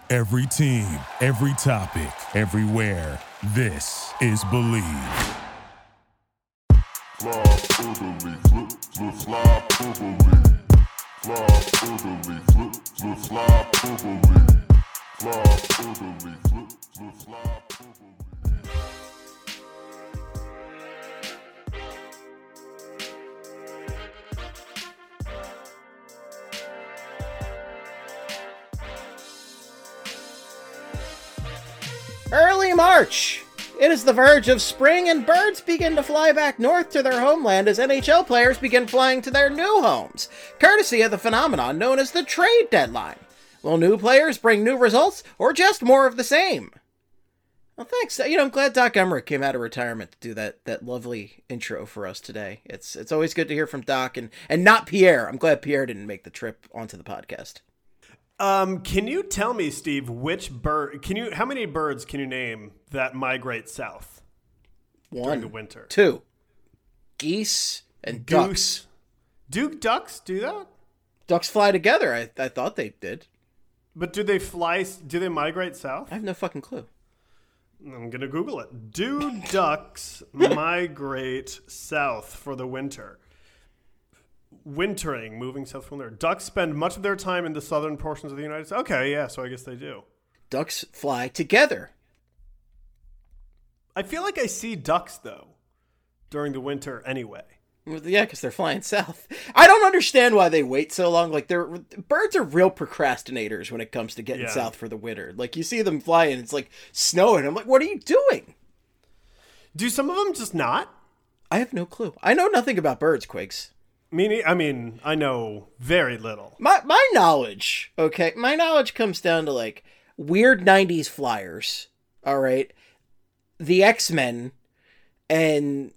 Every team, every topic, everywhere. This is Believe. Fly through the leaf, flip, fly through the leaf. Fly through the leaf, flip, fly through the leaf. Fly through the leaf, flip, fly through the leaf. Early March. It is the verge of spring and birds begin to fly back north to their homeland as NHL players begin flying to their new homes, courtesy of the phenomenon known as the trade deadline. Will new players bring new results or just more of the same? Well, thanks. I'm glad Doc Emmerich came out of retirement to do that lovely intro for us today. It's always good to hear from Doc and not Pierre. I'm glad Pierre didn't make the trip onto the podcast. Can you tell me, Steve, how many birds can you name that migrate south during the winter? 2. Geese and ducks. Do ducks do that? Ducks fly together. I thought they did. But do they migrate south? I have no fucking clue. I'm going to Google it. Do ducks migrate south for the winter? Wintering, moving south from there. Ducks spend much of their time in the southern portions of the United States. Okay, yeah, so I guess they do. Ducks fly together. I feel like I see ducks, though, during the winter anyway. Well, yeah, because they're flying south. I don't understand why they wait so long. Like, birds are real procrastinators when it comes to getting south for the winter. Like, you see them fly and it's like snowing. I'm like, what are you doing? Do some of them just not? I have no clue. I know nothing about birds, Quiggs. I mean, I know very little. My knowledge, okay? My knowledge comes down to, like, weird 90s flyers, all right? The X-Men and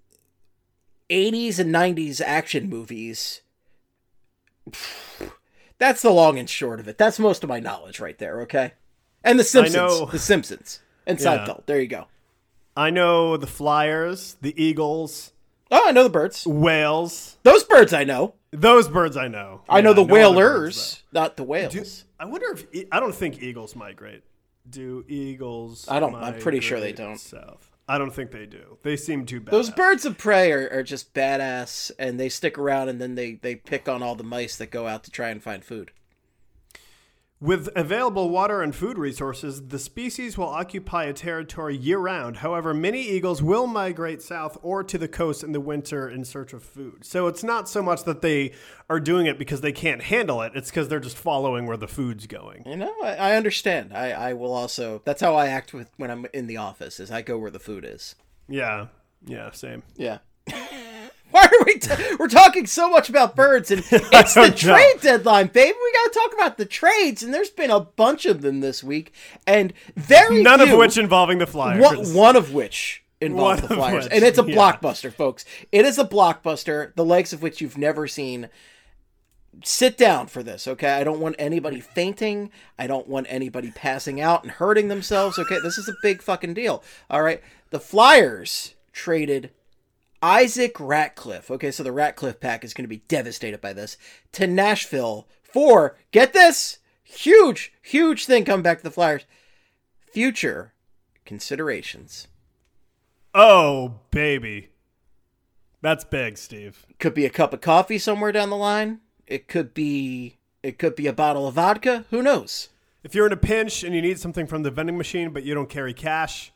80s and 90s action movies. That's the long and short of it. That's most of my knowledge right there, okay? And The Simpsons. The Simpsons. And Seinfeld. There you go. I know the Flyers, the Eagles. Oh, I know the birds. Whales. Those birds I know. Those birds I know. I know the whalers, not the whales. I wonder if... I don't think eagles migrate. Do eagles I'm pretty sure they don't. South? I don't think they do. They seem too bad. Those birds of prey are just badass, and they stick around, and then they pick on all the mice that go out to try and find food. With available water and food resources, the species will occupy a territory year-round. However, many eagles will migrate south or to the coast in the winter in search of food. So it's not so much that they are doing it because they can't handle it. It's because they're just following where the food's going. You know, I understand. I will also... That's how I act when I'm in the office, is I go where the food is. Yeah. Yeah, same. Yeah. Why are we're talking so much about birds, and it's the trade deadline, baby. We got to talk about the trades, and there's been a bunch of them this week, and none of which involving the Flyers. One of which involves the Flyers, and it's a blockbuster, folks. It is a blockbuster, the likes of which you've never seen. Sit down for this, okay? I don't want anybody fainting. I don't want anybody passing out and hurting themselves, okay? This is a big fucking deal, all right? The Flyers traded Isaac Ratcliffe, okay, so the Ratcliffe pack is going to be devastated by this, to Nashville for, get this, huge thing coming back to the Flyers, future considerations. Oh, baby. That's big, Steve. Could be a cup of coffee somewhere down the line. It could be a bottle of vodka. Who knows? If you're in a pinch and you need something from the vending machine, but you don't carry cash,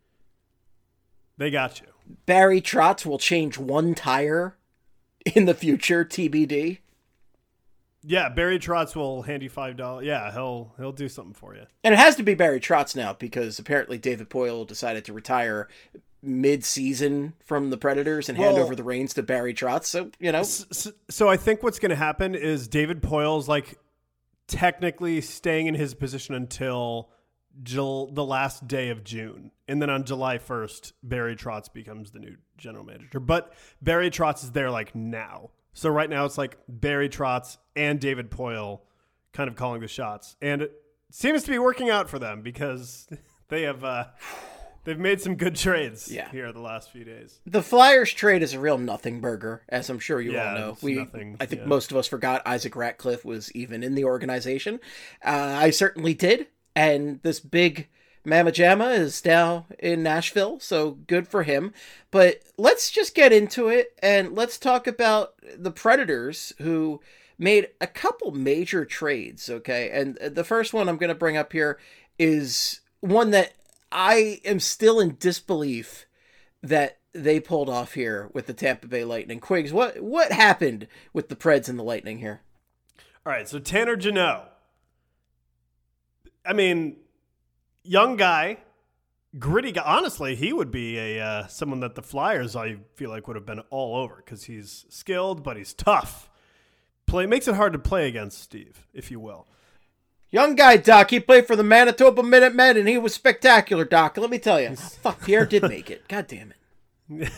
they got you. Barry Trotz will change one tire in the future, TBD. Yeah, Barry Trotz will hand you $5. Yeah, he'll do something for you. And it has to be Barry Trotz now because apparently David Poile decided to retire mid-season from the Predators and hand over the reins to Barry Trotz. So, you know. So I think what's going to happen is David Poile's like technically staying in his position until the last day of June. And then on July 1st, Barry Trotz becomes the new general manager. But Barry Trotz is there like now. So right now it's like Barry Trotz and David Poile kind of calling the shots. And it seems to be working out for them because they have they've made some good trades here the last few days. The Flyers trade is a real nothing burger, as I'm sure you all know. I think most of us forgot Isaac Ratcliffe was even in the organization. I certainly did. and this big Mama Jamma is now in Nashville, so good for him. But let's just get into it, and let's talk about the Predators, who made a couple major trades, okay? And the first one I'm going to bring up here is one that I am still in disbelief that they pulled off here with the Tampa Bay Lightning. Quiggs, what happened with the Preds and the Lightning here? All right, so Tanner Jeannot. I mean, young guy, gritty guy. Honestly, he would be someone that the Flyers, I feel like, would have been all over because he's skilled, but he's tough. Makes it hard to play against Steve, if you will. Young guy, Doc. He played for the Manitoba Minutemen, and he was spectacular, Doc. Let me tell you. Fuck, Pierre did make it. God damn it.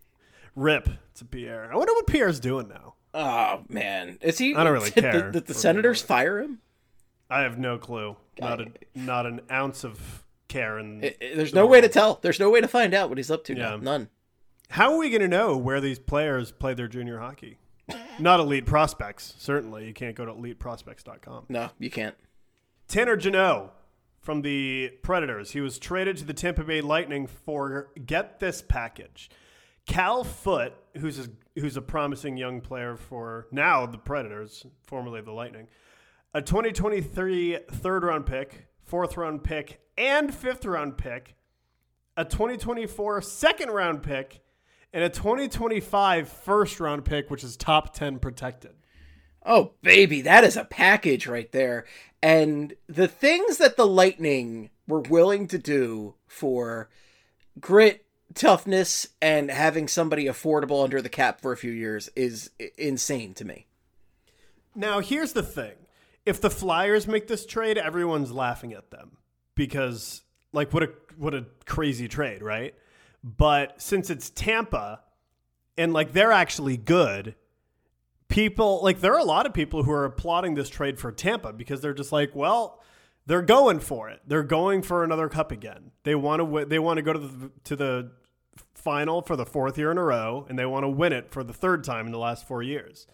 Rip to Pierre. I wonder what Pierre's doing now. Oh, man. Is he? I don't really care. Did the Senators fire him? I have no clue. Not an ounce of care. There's no way to tell. There's no way to find out what he's up to now. None. How are we going to know where these players play their junior hockey? Not elite prospects, certainly. You can't go to eliteprospects.com. No, you can't. Tanner Jeannot from the Predators. He was traded to the Tampa Bay Lightning for, get this package, Cal Foote, who's a promising young player for now the Predators, formerly the Lightning, a 2023 third-round pick, fourth-round pick, and fifth-round pick, a 2024 second-round pick, and a 2025 first-round pick, which is top 10 protected. Oh, baby, that is a package right there. And the things that the Lightning were willing to do for grit, toughness, and having somebody affordable under the cap for a few years is insane to me. Now, here's the thing. If the Flyers make this trade, everyone's laughing at them because, like, what a crazy trade, right? But since it's Tampa and, like, they're actually good, people, like, there are a lot of people who are applauding this trade for Tampa because they're just like, well, they're going for it. They're going for another cup again. They want to they want to go to the final for the fourth year in a row, and they want to win it for the third time in the last 4 years.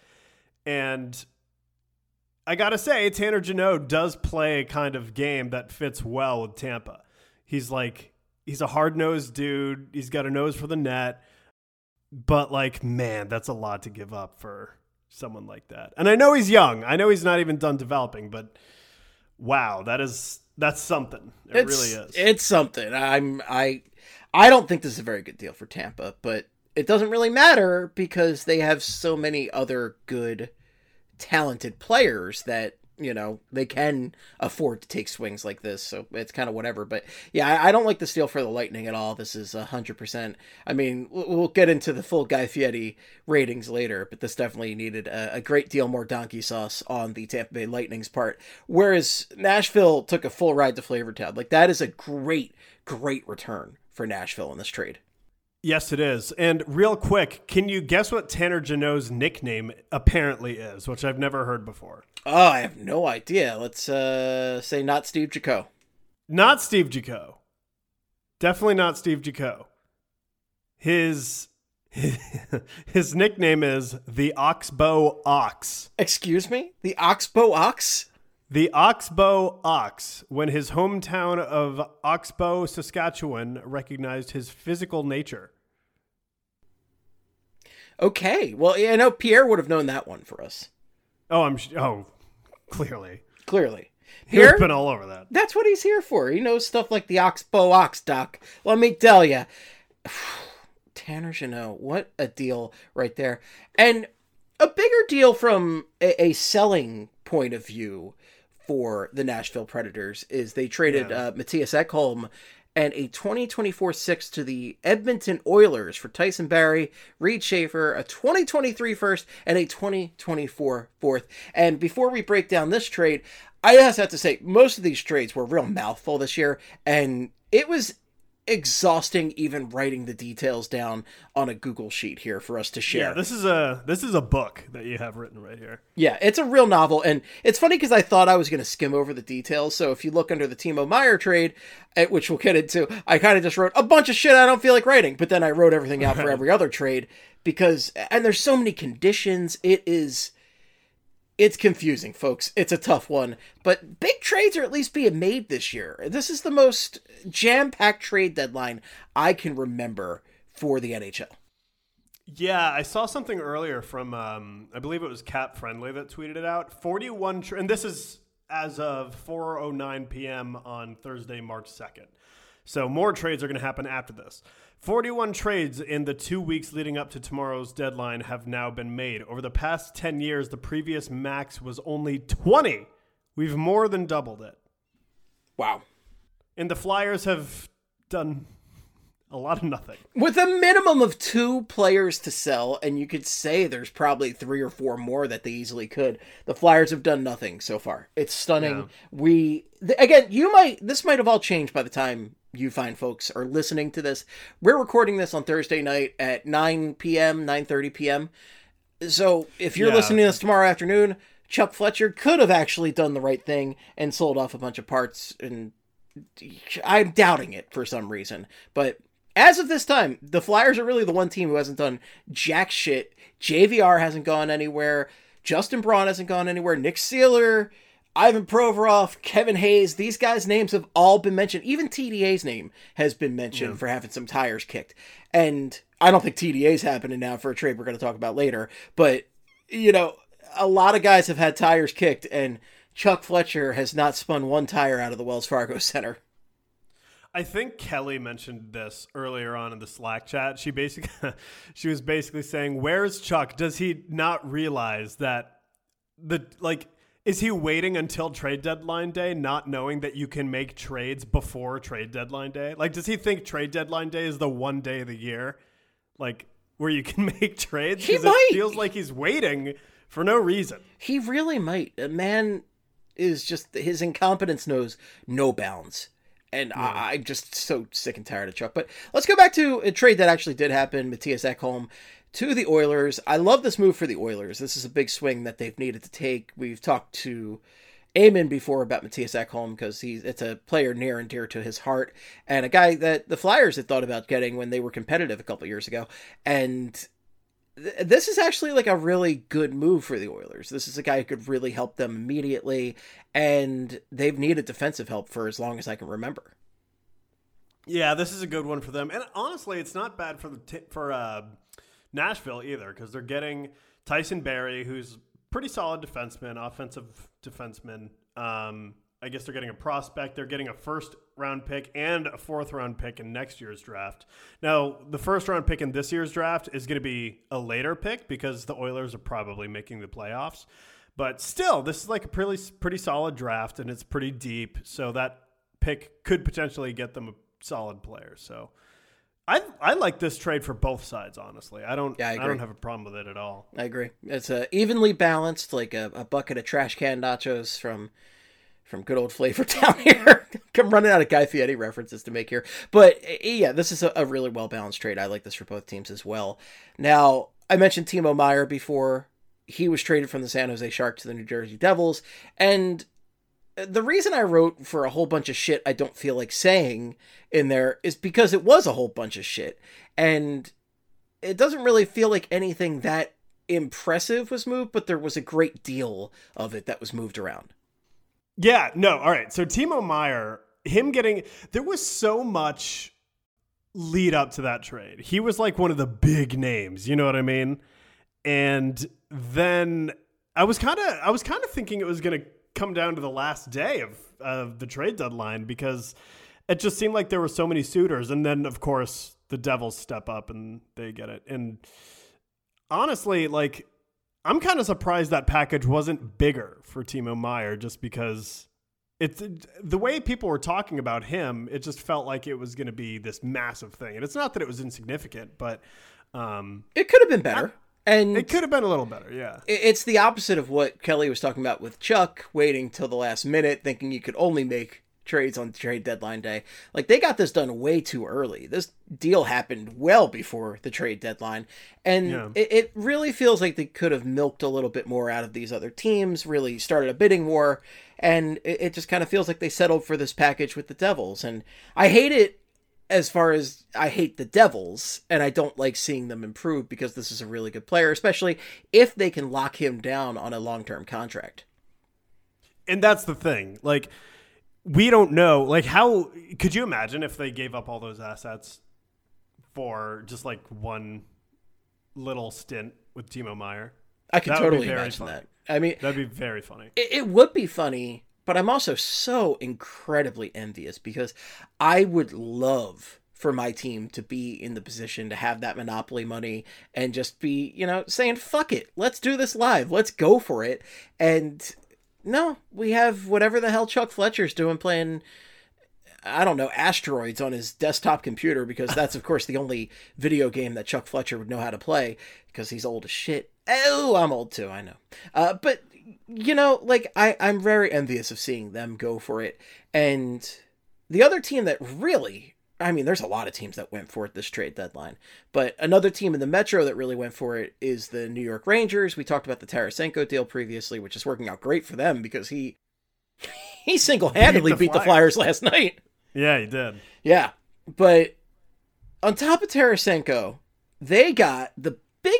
And I got to say, Tanner Jeannot does play a kind of game that fits well with Tampa. He's a hard-nosed dude. He's got a nose for the net. But, like, man, that's a lot to give up for someone like that. And I know he's young. I know he's not even done developing, but wow, that's something. It really is. It's something. I don't think this is a very good deal for Tampa, but it doesn't really matter because they have so many other good, talented players that, you know, they can afford to take swings like this. So it's kind of whatever. But yeah, I don't like this deal for the Lightning at all. This is 100%. I mean, we'll get into the full Guy Fieri ratings later, but this definitely needed a great deal more donkey sauce on the Tampa Bay Lightning's part. Whereas Nashville took a full ride to Flavortown. Like, that is a great, great return for Nashville in this trade. Yes, it is. And real quick, can you guess what Tanner Jeannot's nickname apparently is, which I've never heard before? Oh, I have no idea. Let's say not Steve Jaco. Not Steve Jaco. Definitely not Steve Jaco. His nickname is the Oxbow Ox. Excuse me? The Oxbow Ox? The Oxbow Ox, when his hometown of Oxbow, Saskatchewan, recognized his physical nature. Okay. Well, yeah, I know Pierre would have known that one for us. Oh, clearly. Clearly. Pierre's been all over that. That's what he's here for. He knows stuff like the Oxbow Ox, Doc. Let me tell you. Tanner Jeannot, what a deal right there. And a bigger deal from a selling point of view for the Nashville Predators is they traded Matthias Ekholm and a 2024 sixth to the Edmonton Oilers for Tyson Barrie, Reed Schaefer, a 2023 first, and a 2024 fourth. And before we break down this trade, I just have to say, most of these trades were a real mouthful this year, and it was exhausting even writing the details down on a Google sheet here for us to share. Yeah, this is a book that you have written right here. Yeah, it's a real novel, and it's funny because I thought I was going to skim over the details. So if you look under the Timo Meier trade, which we'll get into, I kind of just wrote a bunch of shit I don't feel like writing, but then I wrote everything out for every other trade and there's so many conditions. It's It's confusing, folks. It's a tough one. But big trades are at least being made this year. This is the most jam-packed trade deadline I can remember for the NHL. Yeah, I saw something earlier from, I believe it was Cap Friendly that tweeted it out. 41, and this is as of 4:09 p.m. on Thursday, March 2nd. So more trades are going to happen after this. 41 trades in the 2 weeks leading up to tomorrow's deadline have now been made. Over the past 10 years, the previous max was only 20. We've more than doubled it. Wow. And the Flyers have done a lot of nothing. With a minimum of 2 players to sell, and you could say there's probably 3 or 4 more that they easily could, the Flyers have done nothing so far. It's stunning. Yeah. This might have all changed by the time you fine folks are listening to this. We're recording this on Thursday night at 9 p.m., 9:30 p.m. So if you're listening to this tomorrow afternoon, Chuck Fletcher could have actually done the right thing and sold off a bunch of parts, and I'm doubting it for some reason. But as of this time, the Flyers are really the one team who hasn't done jack shit. JVR hasn't gone anywhere. Justin Braun hasn't gone anywhere. Nick Seeler, Ivan Provorov, Kevin Hayes, these guys' names have all been mentioned. Even TDA's name has been mentioned for having some tires kicked. And I don't think TDA's happening now for a trade we're going to talk about later. But, a lot of guys have had tires kicked, and Chuck Fletcher has not spun one tire out of the Wells Fargo Center. I think Kelly mentioned this earlier on in the Slack chat. She was basically saying, "Where's Chuck? Does he not realize that is he waiting until trade deadline day, not knowing that you can make trades before trade deadline day? Like, does he think trade deadline day is the one day of the year, where you can make trades? He might. It feels like he's waiting for no reason. He really might. A man is just, his incompetence knows no bounds. And I'm just so sick and tired of Chuck. But let's go back to a trade that actually did happen. Matthias Ekholm to the Oilers. I love this move for the Oilers. This is a big swing that they've needed to take. We've talked to Eamon before about Matthias Ekholm because it's a player near and dear to his heart, and a guy that the Flyers had thought about getting when they were competitive a couple years ago. And this is actually like a really good move for the Oilers. This is a guy who could really help them immediately, and they've needed defensive help for as long as I can remember. Yeah, this is a good one for them. And honestly, it's not bad for Nashville either, because they're getting Tyson Barrie, who's pretty solid defenseman, offensive defenseman. I guess they're getting a prospect. They're getting a first-round pick and a fourth-round pick in next year's draft. Now, the first-round pick in this year's draft is going to be a later pick because the Oilers are probably making the playoffs. But still, this is like a pretty solid draft, and it's pretty deep. So that pick could potentially get them a solid player. So I like this trade for both sides, honestly. I don't have a problem with it at all. I agree. It's evenly balanced, like a bucket of trash can nachos from good old Flavor Town here. I'm running out of Guy Fieri references to make here. But yeah, this is a really well-balanced trade. I like this for both teams as well. Now, I mentioned Timo Meier before. He was traded from the San Jose Sharks to the New Jersey Devils. And the reason I wrote for a whole bunch of shit I don't feel like saying in there is because it was a whole bunch of shit. And it doesn't really feel like anything that impressive was moved, but there was a great deal of it that was moved around. Yeah, no, all right. So Timo Meier, there was so much lead up to that trade. He was like one of the big names, you know what I mean? And then I was kind of thinking it was going to come down to the last day of the trade deadline because it just seemed like there were so many suitors. And then, of course, the Devils step up and they get it. And honestly, like, I'm kind of surprised that package wasn't bigger for Timo Meier just because it's the way people were talking about him. It just felt like it was going to be this massive thing. And it's not that it was insignificant, but it could have been better. And it could have been a little better, yeah. It's the opposite of what Kelly was talking about with Chuck, waiting till the last minute, thinking you could only make trades on trade deadline day. Like, they got this done way too early. This deal happened well before the trade deadline. And it really feels like they could have milked a little bit more out of these other teams, really started a bidding war. And it just kind of feels like they settled for this package with the Devils. And I hate it as far as I hate the Devils, and I don't like seeing them improve because this is a really good player, especially if they can lock him down on a long-term contract. And that's the thing. Like, we don't know. Like, how could you imagine if they gave up all those assets for just like one little stint with Timo Meier? I could totally imagine that. I mean, that'd be very funny. It would be funny, but I'm also so incredibly envious because I would love for my team to be in the position to have that monopoly money and just be, saying, fuck it, let's do this live. Let's go for it. And no, we have whatever the hell Chuck Fletcher's doing playing, I don't know, Asteroids on his desktop computer, because that's, of course, the only video game that Chuck Fletcher would know how to play because he's old as shit. Oh, I'm old too, I know. But, I'm very envious of seeing them go for it. And the other team that really, there's a lot of teams that went for it this trade deadline, but another team in the Metro that really went for it is the New York Rangers. We talked about the Tarasenko deal previously, which is working out great for them because he single-handedly beat the Flyers last night. Yeah, he did. Yeah, but on top of Tarasenko, they got the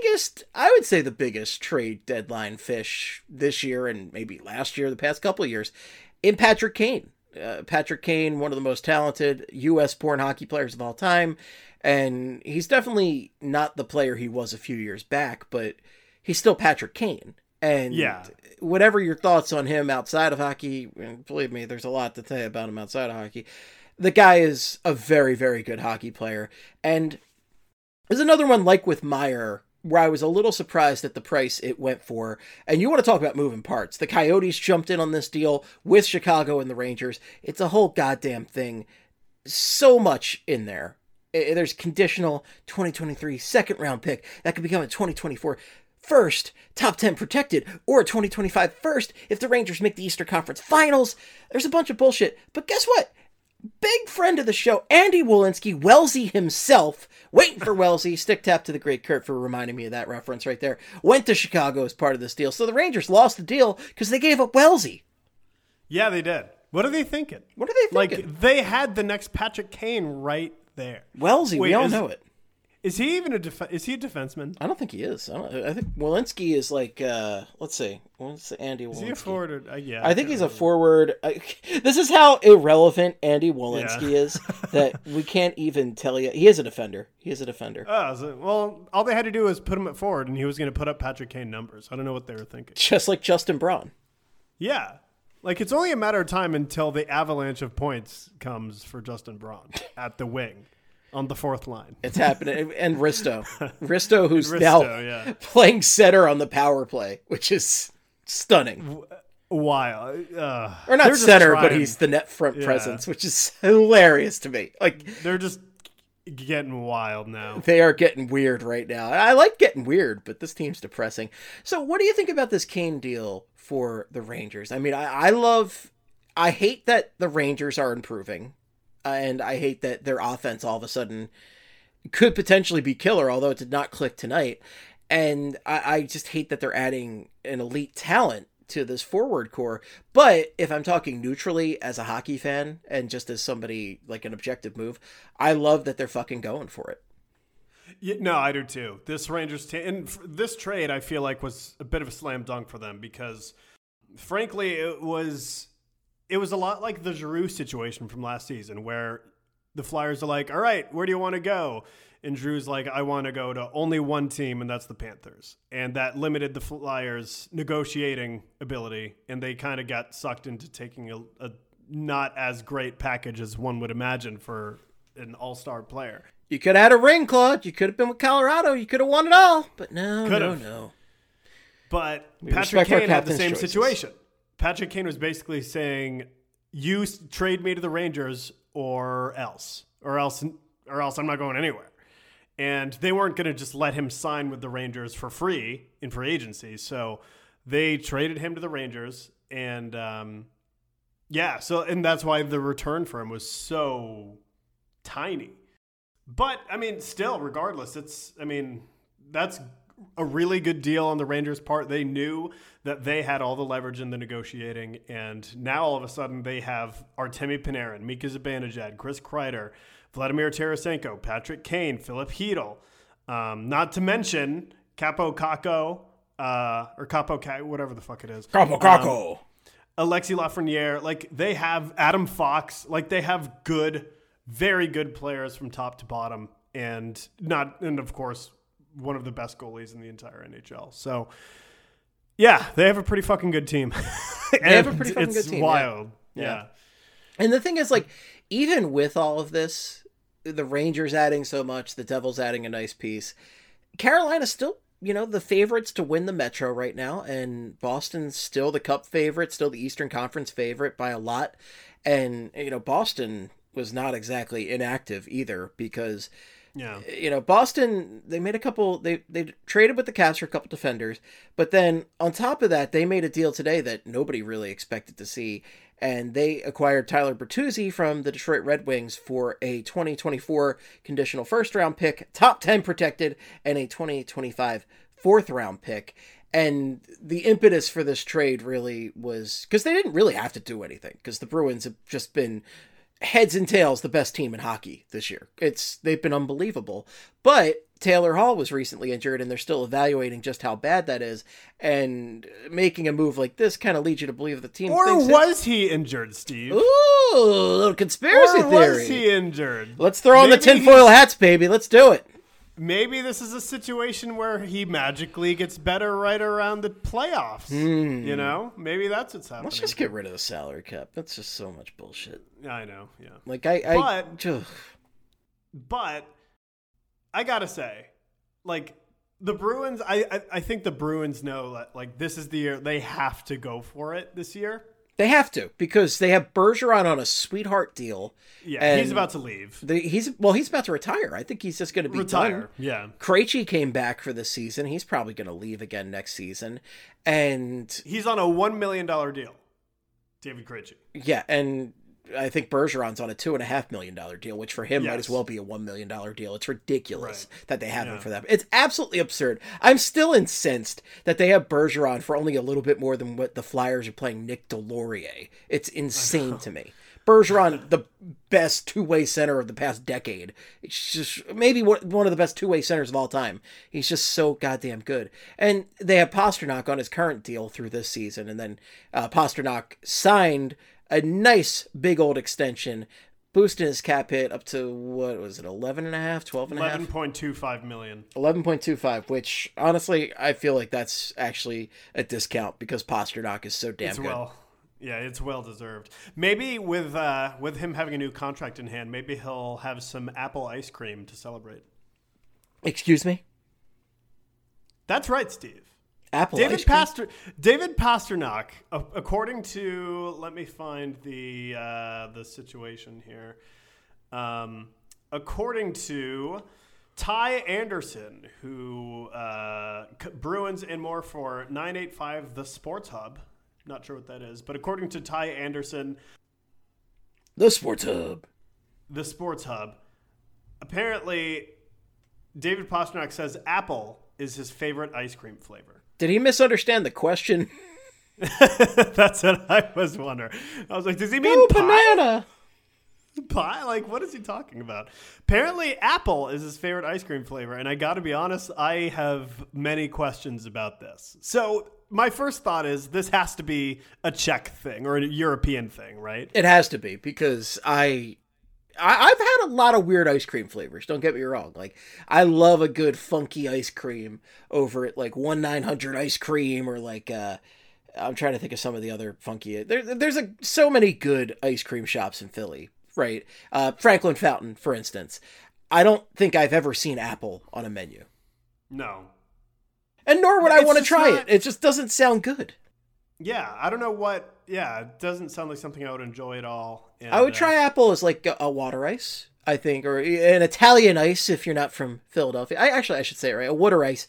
biggest trade deadline fish this year and maybe last year, the past couple of years, in Patrick Kane. Patrick Kane, one of the most talented U.S.-born hockey players of all time, and he's definitely not the player he was a few years back, but he's still Patrick Kane. And whatever your thoughts on him outside of hockey, and believe me, there's a lot to say about him outside of hockey, the guy is a very, very good hockey player. And there's another one like with Meier, where I was a little surprised at the price it went for. And you want to talk about moving parts. The Coyotes jumped in on this deal with Chicago and the Rangers. It's a whole goddamn thing. So much in there. There's conditional 2023 second round pick that could become a 2024 first, top 10 protected, or a 2025 first if the Rangers make the Eastern Conference Finals. There's a bunch of bullshit. But guess what? Big friend of the show, Andy Welinski, Wellesley himself, waiting for Wellesley, stick tap to the great Kurt for reminding me of that reference right there, went to Chicago as part of this deal. So the Rangers lost the deal because they gave up Wellesley. Yeah, they did. What are they thinking? Like, they had the next Patrick Kane right there. Wellesley, we all know it. Is he even is he a defenseman? I don't think he is. I think Welinski is like, let's see. What's Andy Welinski? Is he a forward? Yeah. I think he's a forward. This is how irrelevant Andy Welinski is that we can't even tell you. He is a defender. Oh, well, all they had to do was put him at forward, and he was going to put up Patrick Kane numbers. I don't know what they were thinking. Just like Justin Braun. Yeah. Like, it's only a matter of time until the avalanche of points comes for Justin Braun at the wing. On the fourth line. It's happening. And Risto, who's now playing center on the power play, which is stunning. Wild. Or not center, but he's the net front presence, which is hilarious to me. Like, they're just getting wild now. They are getting weird right now. I like getting weird, but this team's depressing. So what do you think about this Kane deal for the Rangers? I mean, I hate that the Rangers are improving. And I hate that their offense all of a sudden could potentially be killer, although it did not click tonight. And I just hate that they're adding an elite talent to this forward core. But if I'm talking neutrally as a hockey fan and just as somebody like an objective move, I love that they're fucking going for it. Yeah, no, I do too. This Rangers team, and this trade I feel like was a bit of a slam dunk for them because frankly it was a lot like the Giroux situation from last season where the Flyers are like, all right, where do you want to go? And Drew's like, I want to go to only one team, and that's the Panthers. And that limited the Flyers' negotiating ability, and they kind of got sucked into taking a not as great package as one would imagine for an all-star player. You could have had a ring, Claude. You could have been with Colorado. You could have won it all. But no. But Patrick Kane had the same situation. Patrick Kane was basically saying, you trade me to the Rangers or else I'm not going anywhere. And they weren't going to just let him sign with the Rangers for free in free agency. So they traded him to the Rangers. And and that's why the return for him was so tiny. But, I mean, still, regardless, that's a really good deal on the Rangers' part. They knew that they had all the leverage in the negotiating, and now all of a sudden they have Artemi Panarin, Mika Zibanejad, Chris Kreider, Vladimir Tarasenko, Patrick Kane, Philip Hedl, not to mention Capo Caco, or Capo, whatever the fuck it is. Capo Caco. Alexis Lafreniere. Like, they have Adam Fox. Like, they have good, very good players from top to bottom, and of course, one of the best goalies in the entire NHL. So, yeah, they have a pretty fucking good team. They have a pretty fucking good team. It's wild. Yeah. And the thing is, like, even with all of this, the Rangers adding so much, the Devils adding a nice piece, Carolina's still, the favorites to win the Metro right now, and Boston's still the Cup favorite, still the Eastern Conference favorite by a lot. And, Boston was not exactly inactive either, because Boston, they made a couple, they traded with the Caps for a couple defenders, but then on top of that, they made a deal today that nobody really expected to see, and they acquired Tyler Bertuzzi from the Detroit Red Wings for a 2024 conditional first round pick, top 10 protected, and a 2025 fourth round pick. And the impetus for this trade really was because they didn't really have to do anything, because the Bruins have just been heads and tails the best team in hockey this year. They've been unbelievable. But Taylor Hall was recently injured, and they're still evaluating just how bad that is. And making a move like this kind of leads you to believe the team. Or was he injured, Steve? Ooh, a little conspiracy theory. Was he injured? Let's throw on the tinfoil hats, baby. Let's do it. Maybe this is a situation where he magically gets better right around the playoffs. Maybe that's what's happening. Let's just get rid of the salary cap. That's just so much bullshit. I know, yeah. Like, but I gotta say, like, the Bruins, I think the Bruins know that, like, this is the year they have to go for it this year. They have to, because they have Bergeron on a sweetheart deal. Yeah, he's about to leave. He's about to retire. I think he's just going to be done. Yeah. Krejci came back for this season. He's probably going to leave again next season. And he's on a $1 million deal, David Krejci. Yeah, and I think Bergeron's on a $2.5 million deal, which for him might as well be a $1 million deal. It's ridiculous that they have him for that. It's absolutely absurd. I'm still incensed that they have Bergeron for only a little bit more than what the Flyers are playing Nick Delorier. It's insane to me. Bergeron, the best two-way center of the past decade. It's just maybe one of the best two-way centers of all time. He's just so goddamn good. And they have Pasternak on his current deal through this season, and then Pasternak signed a nice big old extension, boosting his cap hit up to, what was it, 11.5, 12.5? 11.25 million. 11.25, which, honestly, I feel like that's actually a discount because Pasternak is so damn good. It's well deserved. Maybe with him having a new contract in hand, maybe he'll have some apple ice cream to celebrate. Excuse me? That's right, Steve. David Pasternak, according to, let me find the situation here. According to Ty Anderson, who Bruins and more for 985 The Sports Hub. Not sure what that is, but according to Ty Anderson, The Sports Hub, apparently David Pasternak says apple is his favorite ice cream flavor. Did he misunderstand the question? That's what I was wondering. I was like, does he mean pie? Banana? Pie? Like, what is he talking about? Apparently, apple is his favorite ice cream flavor, and I got to be honest, I have many questions about this. So my first thought is this has to be a Czech thing or a European thing, right? It has to be, because I've had a lot of weird ice cream flavors. Don't get me wrong. Like, I love a good funky ice cream over at like 1-900 ice cream, or like I'm trying to think of some of the other funky. There's so many good ice cream shops in Philly, right? Franklin Fountain, for instance. I don't think I've ever seen apple on a menu. No. And nor would I want to try it. It just doesn't sound good. Yeah, I don't know what. Yeah, it doesn't sound like something I would enjoy at all. And, I would try apple as like a water ice, I think, or an Italian ice if you're not from Philadelphia. I should say it right, a water ice,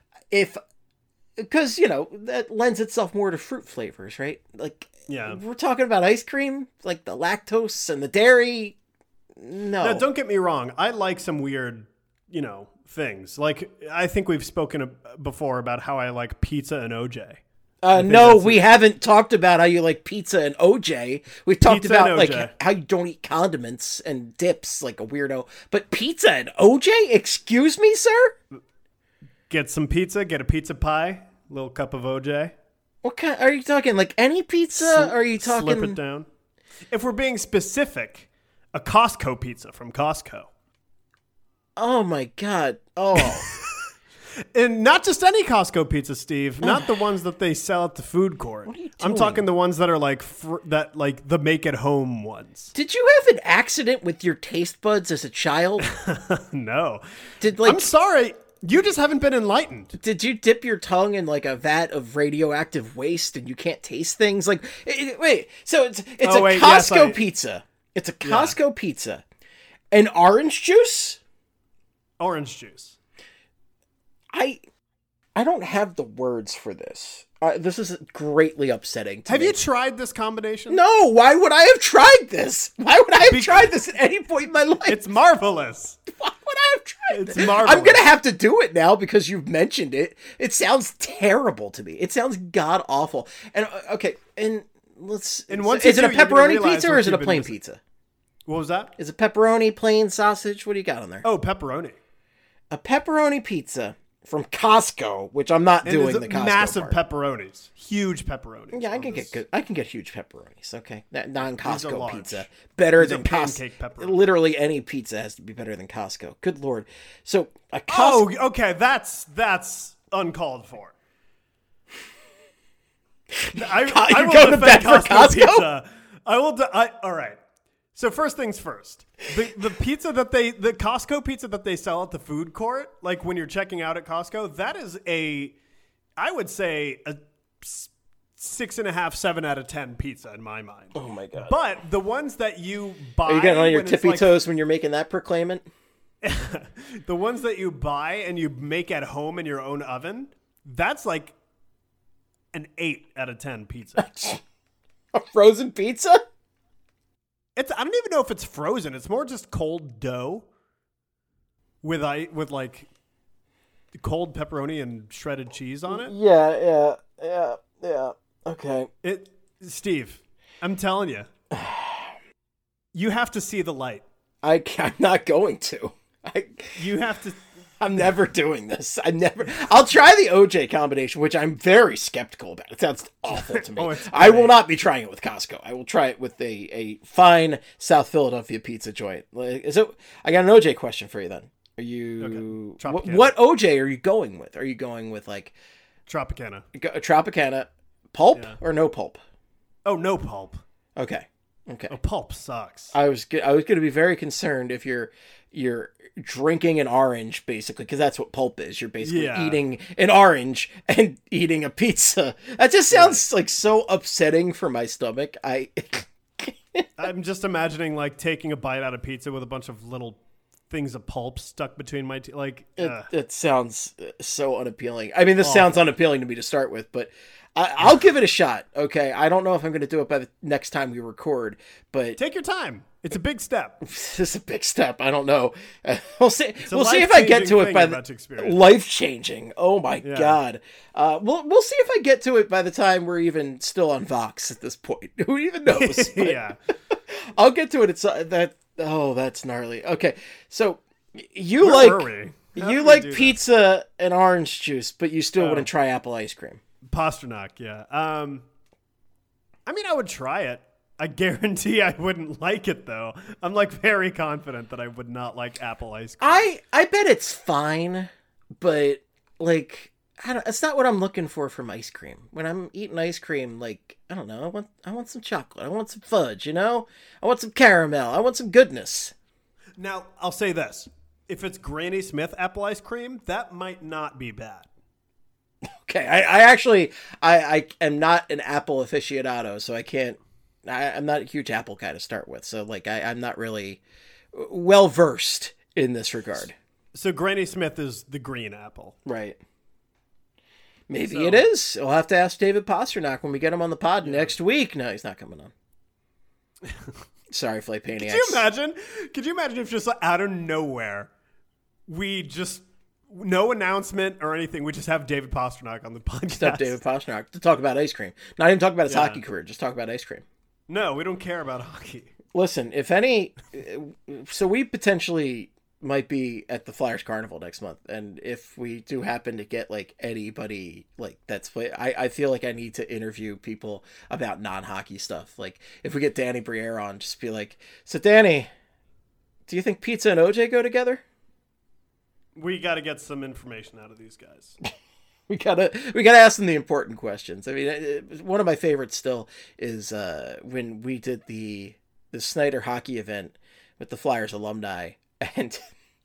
because that lends itself more to fruit flavors, right? Like, we're talking about ice cream, like the lactose and the dairy. No, don't get me wrong. I like some weird, things. Like, I think we've spoken before about how I like pizza and OJ. No, we haven't talked about how you like pizza and OJ. We've talked Pizza about and like OJ. how you don't eat condiments and dips like a weirdo. But pizza and OJ? Excuse me, sir? Get some pizza, get a pizza pie, little cup of OJ. What kind are you talking? Like any pizza? Are you talking Slip it down. If we're being specific, a Costco pizza from Costco. Oh my god. Oh. And not just any Costco pizza, Steve. Not the ones that they sell at the food court. What are you I'm doing? talking the ones that are like like the make at home ones. Did you have an accident with your taste buds as a child? No. I'm I'm sorry. You just haven't been enlightened. Did you dip your tongue in like a vat of radioactive waste and you can't taste things? Like, wait, so it's Oh, a wait, Costco yes, pizza. It's a Costco pizza. And orange juice? Orange juice. I don't have the words for this. This is greatly upsetting to Have me. you tried this combination? No, why would I have tried this? Why would I have tried this at any point in my life? It's marvelous. Why would I have tried It's this? marvelous. I'm going to have to do it now because you've mentioned it. It sounds terrible to me. It sounds god awful. And okay, and let's And once is you it a do, you're gonna pepperoni realize pizza or what is it a you've been plain missing. pizza? What was that? Is it pepperoni, plain sausage? What do you got on there? Oh, pepperoni. A pepperoni pizza from Costco, which I'm not And doing it's the Costco massive part. pepperonis. Huge pepperonis. Yeah, I on can this. get good. I can get huge pepperonis. Okay, that non-Costco large. pizza better These than are Costco. pancake pepperoni. Literally any pizza has to be better than Costco. Good lord. So a Costco. Oh, okay. That's uncalled for. I You're will going to defend bat for Costco Costco? pizza. I will. All right. So first things first. The pizza that the Costco pizza that they sell at the food court, like when you're checking out at Costco, that is I would say a 6.5, 7 out of 10 pizza in my mind. Oh my god. But the ones that you buy, Are you getting on your when it's tippy like- toes when you're making that proclaimant? the ones that you buy and you make at home in your own oven, that's like an 8 out of 10 pizza. A frozen pizza? I don't even know if it's frozen. It's more just cold dough with like cold pepperoni and shredded cheese on it. Yeah. Okay. Steve, I'm telling you, you have to see the light. I'm not going to. You have to. I'm never doing this. I'll try the OJ combination, which I'm very skeptical about. It sounds awful to me. Oh, it's I will great. not be trying it with Costco. I will try it with a fine South Philadelphia pizza joint. I got an OJ question for you then. Are you Okay. Tropicana. what OJ are you going with? Are you going with like Tropicana. a Tropicana pulp or no pulp? Oh, no pulp. Okay. Oh, pulp sucks. I was going to be very concerned if you're drinking an orange, basically, because that's what pulp is. You're basically eating an orange and eating a pizza. That just sounds like so upsetting for my stomach. I'm just imagining like taking a bite out of pizza with a bunch of little things of pulp stuck between my teeth. Like, It sounds so unappealing. I mean, this sounds unappealing to me to start with, but I'll give it a shot. Okay, I don't know if I'm going to do it by the next time we record, but take your time. It's a big step. this is a big step. I don't know. We'll see. a We'll see if I get to life-changing it thing by you're the about to experience. life changing. Oh my god. We'll see if I get to it by the time we're even still on Vox at this point. Who even knows? But Yeah. I'll get to it. It's that. Oh, that's gnarly. Okay, so you Where were like we? How you did we like do pizza and orange juice, but you still Oh. wouldn't try apple ice cream. Pasternak, yeah. I mean, I would try it. I guarantee I wouldn't like it, though. I'm like very confident that I would not like apple ice cream. I bet it's fine, but like it's not what I'm looking for from ice cream. When I'm eating ice cream, like I don't know, I want some chocolate, I want some fudge, I want some caramel, I want some goodness. Now, I'll say this. If it's Granny Smith apple ice cream, that might not be bad. Okay, I actually I am not an apple aficionado, so I can't. I'm not a huge apple guy to start with, so like I'm not really well versed in this regard. So Granny Smith is the green apple. Right. Maybe So- it is. We'll have to ask David Pasternak when we get him on the pod next week. No, he's not coming on. Sorry, Flight Paniacs. Could you imagine if just out of nowhere we just No announcement or anything. We just have David Pastrnak on the podcast. Just have David Pastrnak to talk about ice cream. Not even talk about his hockey career. Just talk about ice cream. No, we don't care about hockey. Listen, if any, so we potentially might be at the Flyers Carnival next month, and if we do happen to get like anybody like that's play, I feel like I need to interview people about non-hockey stuff. Like if we get Danny Briere on, just be like, so Danny, do you think pizza and OJ go together? We got to get some information out of these guys. We gotta ask them the important questions. I mean, one of my favorites still is when we did the Snyder hockey event with the Flyers alumni, and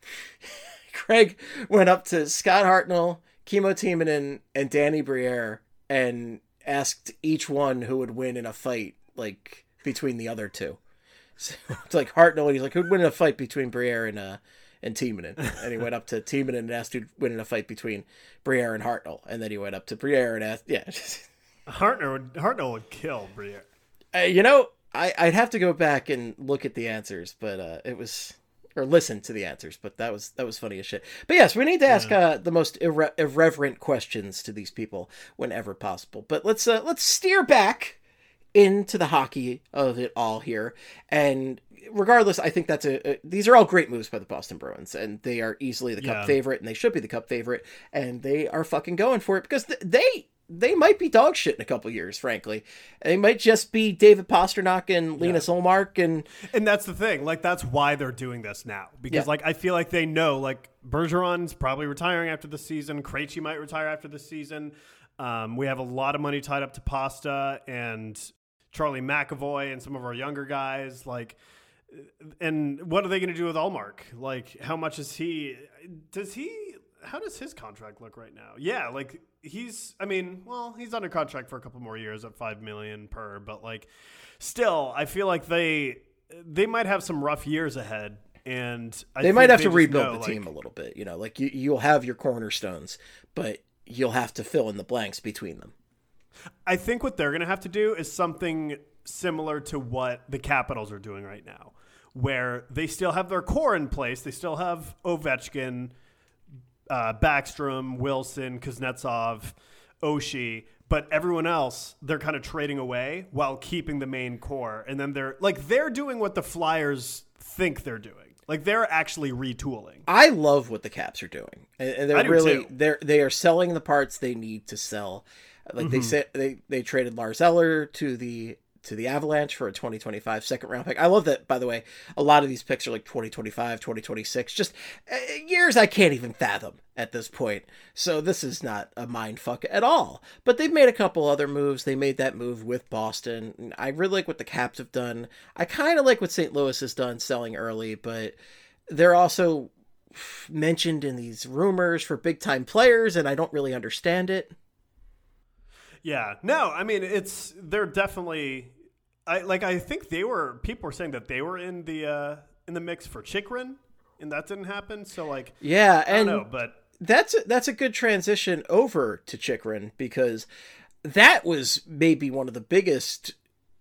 Craig went up to Scott Hartnell, Kimmo Timonen, and Danny Briere and asked each one who would win in a fight, like between the other two. So it's like Hartnell, and he's like, who'd win in a fight between Briere and Timonen? And he went up to Timonen and asked who'd win in a fight between Briere and Hartnell, and then he went up to Briere and asked, yeah. Hartnell would kill Briere. I'd have to go back and look at the answers, but or listen to the answers, but that was funny as shit. But yes, we need to ask the most irreverent questions to these people whenever possible. But let's steer back into the hockey of it all here. And regardless, I think these are all great moves by the Boston Bruins, and they are easily the Cup favorite, and they should be the Cup favorite, and they are fucking going for it because they might be dog shit in a couple years, frankly. They might just be David Pastrnak and Linus Ullmark. And that's the thing. Like, that's why they're doing this now. Because, like, I feel like they know, like, Bergeron's probably retiring after the season. Krejci might retire after the season. We have a lot of money tied up to Pasta and Charlie McAvoy and some of our younger guys. Like, and what are they going to do with Ullmark? Like, how much is he – how does his contract look right now? Yeah, like – he's under contract for a couple more years at $5 million per, but like still I feel like they might have some rough years ahead, and they might have to rebuild the team a little bit, like you'll have your cornerstones, but you'll have to fill in the blanks between them. I think what they're going to have to do is something similar to what the Capitals are doing right now, where they still have their core in place. They still have Ovechkin, Backstrom, Wilson, Kuznetsov, Oshie, but everyone else they're kind of trading away while keeping the main core. And then they're doing what the Flyers think they're doing. Like they're actually retooling. I love what the Caps are doing, and they're really they are selling the parts they need to sell. Like they said, they traded Lars Eller to the Avalanche for a 2025 second round pick. I love that, by the way. A lot of these picks are like 2025, 2026, just years I can't even fathom at this point. So this is not a mind fuck at all. But they've made a couple other moves. They made that move with Boston. I really like what the Caps have done. I kind of like what St. Louis has done selling early, but they're also mentioned in these rumors for big time players, and I don't really understand it. Yeah, no, I mean they're definitely. I think people were saying that they were in the mix for Chychrun, and that didn't happen. So like, yeah, I don't know, but that's a good transition over to Chychrun, because that was maybe one of the biggest,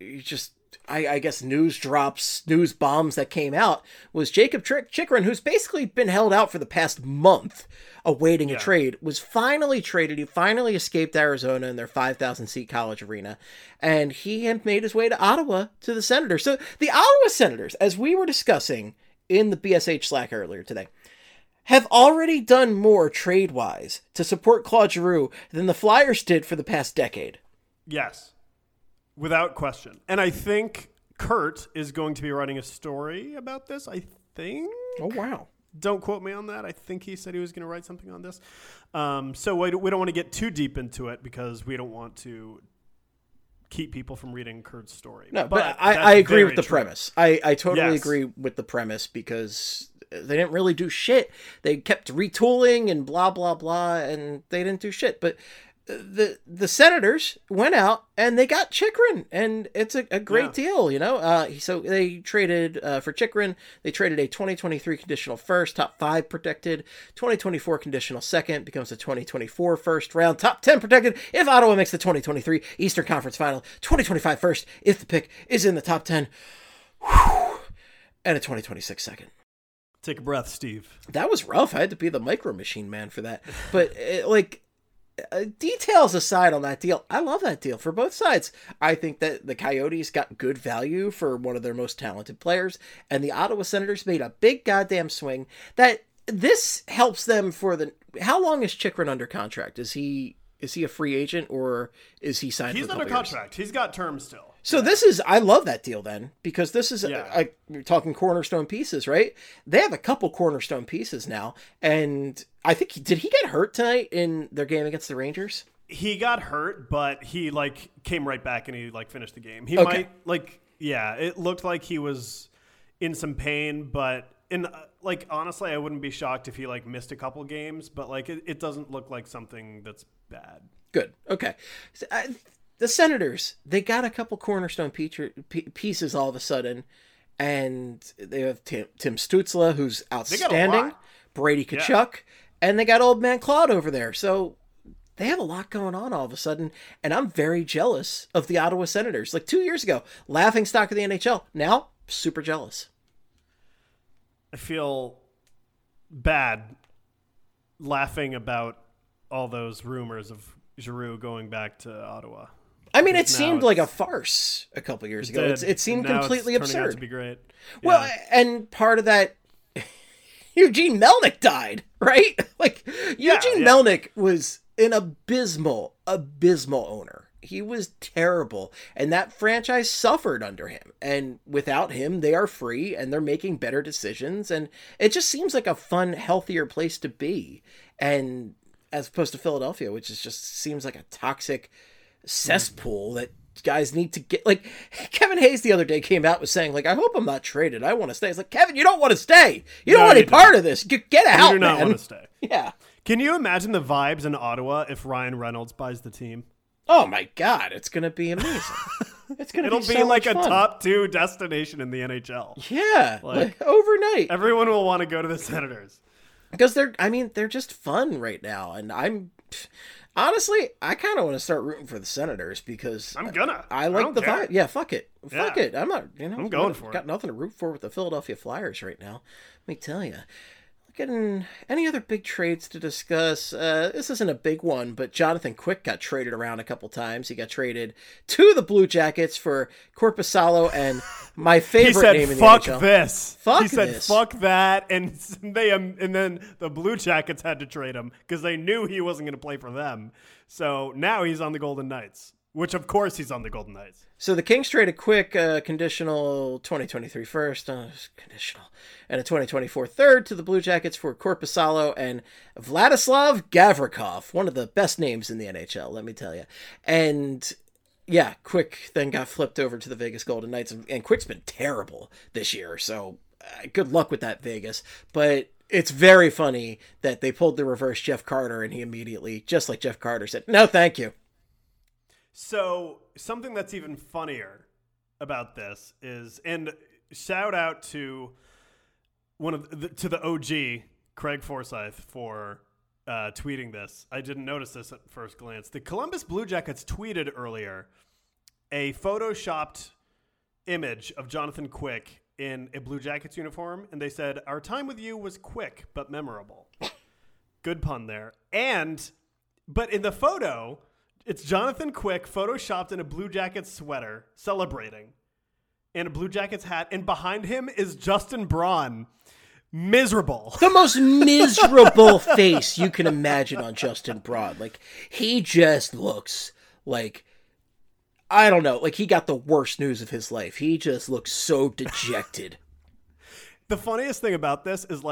I guess news bombs that came out was Jacob Chychrun, who's basically been held out for the past month awaiting a trade, was finally traded. He finally escaped Arizona in their 5,000 seat college arena, and he had made his way to Ottawa to the Senators. So the Ottawa Senators, as we were discussing in the BSH Slack earlier today, have already done more trade-wise to support Claude Giroux than the Flyers did for the past decade. Yes. Without question. And I think Kurt is going to be writing a story about this, I think. Oh, wow. Don't quote me on that. I think he said he was going to write something on this. So we don't want to get too deep into it because we don't want to keep people from reading Kurt's story. No, but I agree with the premise. I totally agree with the premise, because they didn't really do shit. They kept retooling and blah, blah, blah, and they didn't do shit. But the Senators went out and they got Chychrun, and it's a great deal, So they traded for Chychrun. They traded a 2023 conditional first, top 5 protected, 2024 conditional second, becomes a 2024 first round, top 10 protected if Ottawa makes the 2023 Eastern Conference Final, 2025 first if the pick is in the top 10, and a 2026 second. Take a breath, Steve. That was rough. I had to be the Micro Machine Man for that. But details aside on that deal, I love that deal for both sides. I think that the Coyotes got good value for one of their most talented players, and the Ottawa Senators made a big goddamn swing. That this helps them for the. How long is Chychrun under contract? Is he a free agent, or is he signed? He's under contract. He's got terms still. So this is, I love that deal then, because this is, we're talking cornerstone pieces, right? They have a couple cornerstone pieces now, and I think, did he get hurt tonight in their game against the Rangers? He got hurt, but he, came right back and he, finished the game. He it looked like he was in some pain, but, honestly, I wouldn't be shocked if he, missed a couple games, but, it doesn't look like something that's bad. Good. Okay. So, the Senators, they got a couple cornerstone pieces all of a sudden, and they have Tim Stützle, who's outstanding, Brady Tkachuk, and they got old man Claude over there. So they have a lot going on all of a sudden, and I'm very jealous of the Ottawa Senators. 2 years ago, laughingstock of the NHL. Now, super jealous. I feel bad laughing about all those rumors of Giroux going back to Ottawa. I mean, it seemed like a farce a couple years ago. It seemed completely absurd. Turning out to be great. Well, and part of that, Eugene Melnyk died, right? Eugene Melnyk was an abysmal owner. He was terrible, and that franchise suffered under him. And without him, they are free, and they're making better decisions, and it just seems like a fun, healthier place to be. And as opposed to Philadelphia, which just seems like a toxic cesspool that guys need to get. Kevin Hayes the other day came out with saying, I hope I'm not traded. I want to stay. It's Kevin, you don't want to stay. You don't want any part of this. Get out, man. You do not want to stay. Yeah. Can you imagine the vibes in Ottawa if Ryan Reynolds buys the team? Oh my God, it's going to be amazing. It'll be so like a fun. top 2 destination in the NHL. Yeah, overnight. Everyone will want to go to the Senators. Because they're just fun right now. And honestly, I kind of want to start rooting for the Senators because I like the vibe. Yeah, fuck it. Fuck it. I'm not, I'm going for it. Got nothing to root for with the Philadelphia Flyers right now. Let me tell you. Getting any other big trades to discuss? This isn't a big one, but Jonathan Quick got traded around a couple times. He got traded to the Blue Jackets for Korpisalo and my favorite name in the NHL. Fuck this. Fuck he said, this. fuck that, and then the Blue Jackets had to trade him because they knew he wasn't going to play for them. So now he's on the Golden Knights, which of course he's on the Golden Knights. So the Kings traded Quick, conditional 2023 first, conditional, and a 2024 third to the Blue Jackets for Korpisalo and Vladislav Gavrikov, one of the best names in the NHL, let me tell you. And yeah, Quick then got flipped over to the Vegas Golden Knights, and Quick's been terrible this year, so good luck with that, Vegas. But it's very funny that they pulled the reverse Jeff Carter, and he immediately, just like Jeff Carter, said, no, thank you. So something that's even funnier about this is, and shout out to to the OG Craig Forsyth for tweeting this. I didn't notice this at first glance. The Columbus Blue Jackets tweeted earlier a photoshopped image of Jonathan Quick in a Blue Jackets uniform, and they said, "Our time with you was quick but memorable." Good pun there. But in the photo, it's Jonathan Quick photoshopped in a Blue Jackets sweater celebrating and a Blue Jackets hat, and behind him is Justin Braun. Miserable. The most miserable face you can imagine on Justin Braun. He just looks like, I don't know, he got the worst news of his life. He just looks so dejected. The funniest thing about this is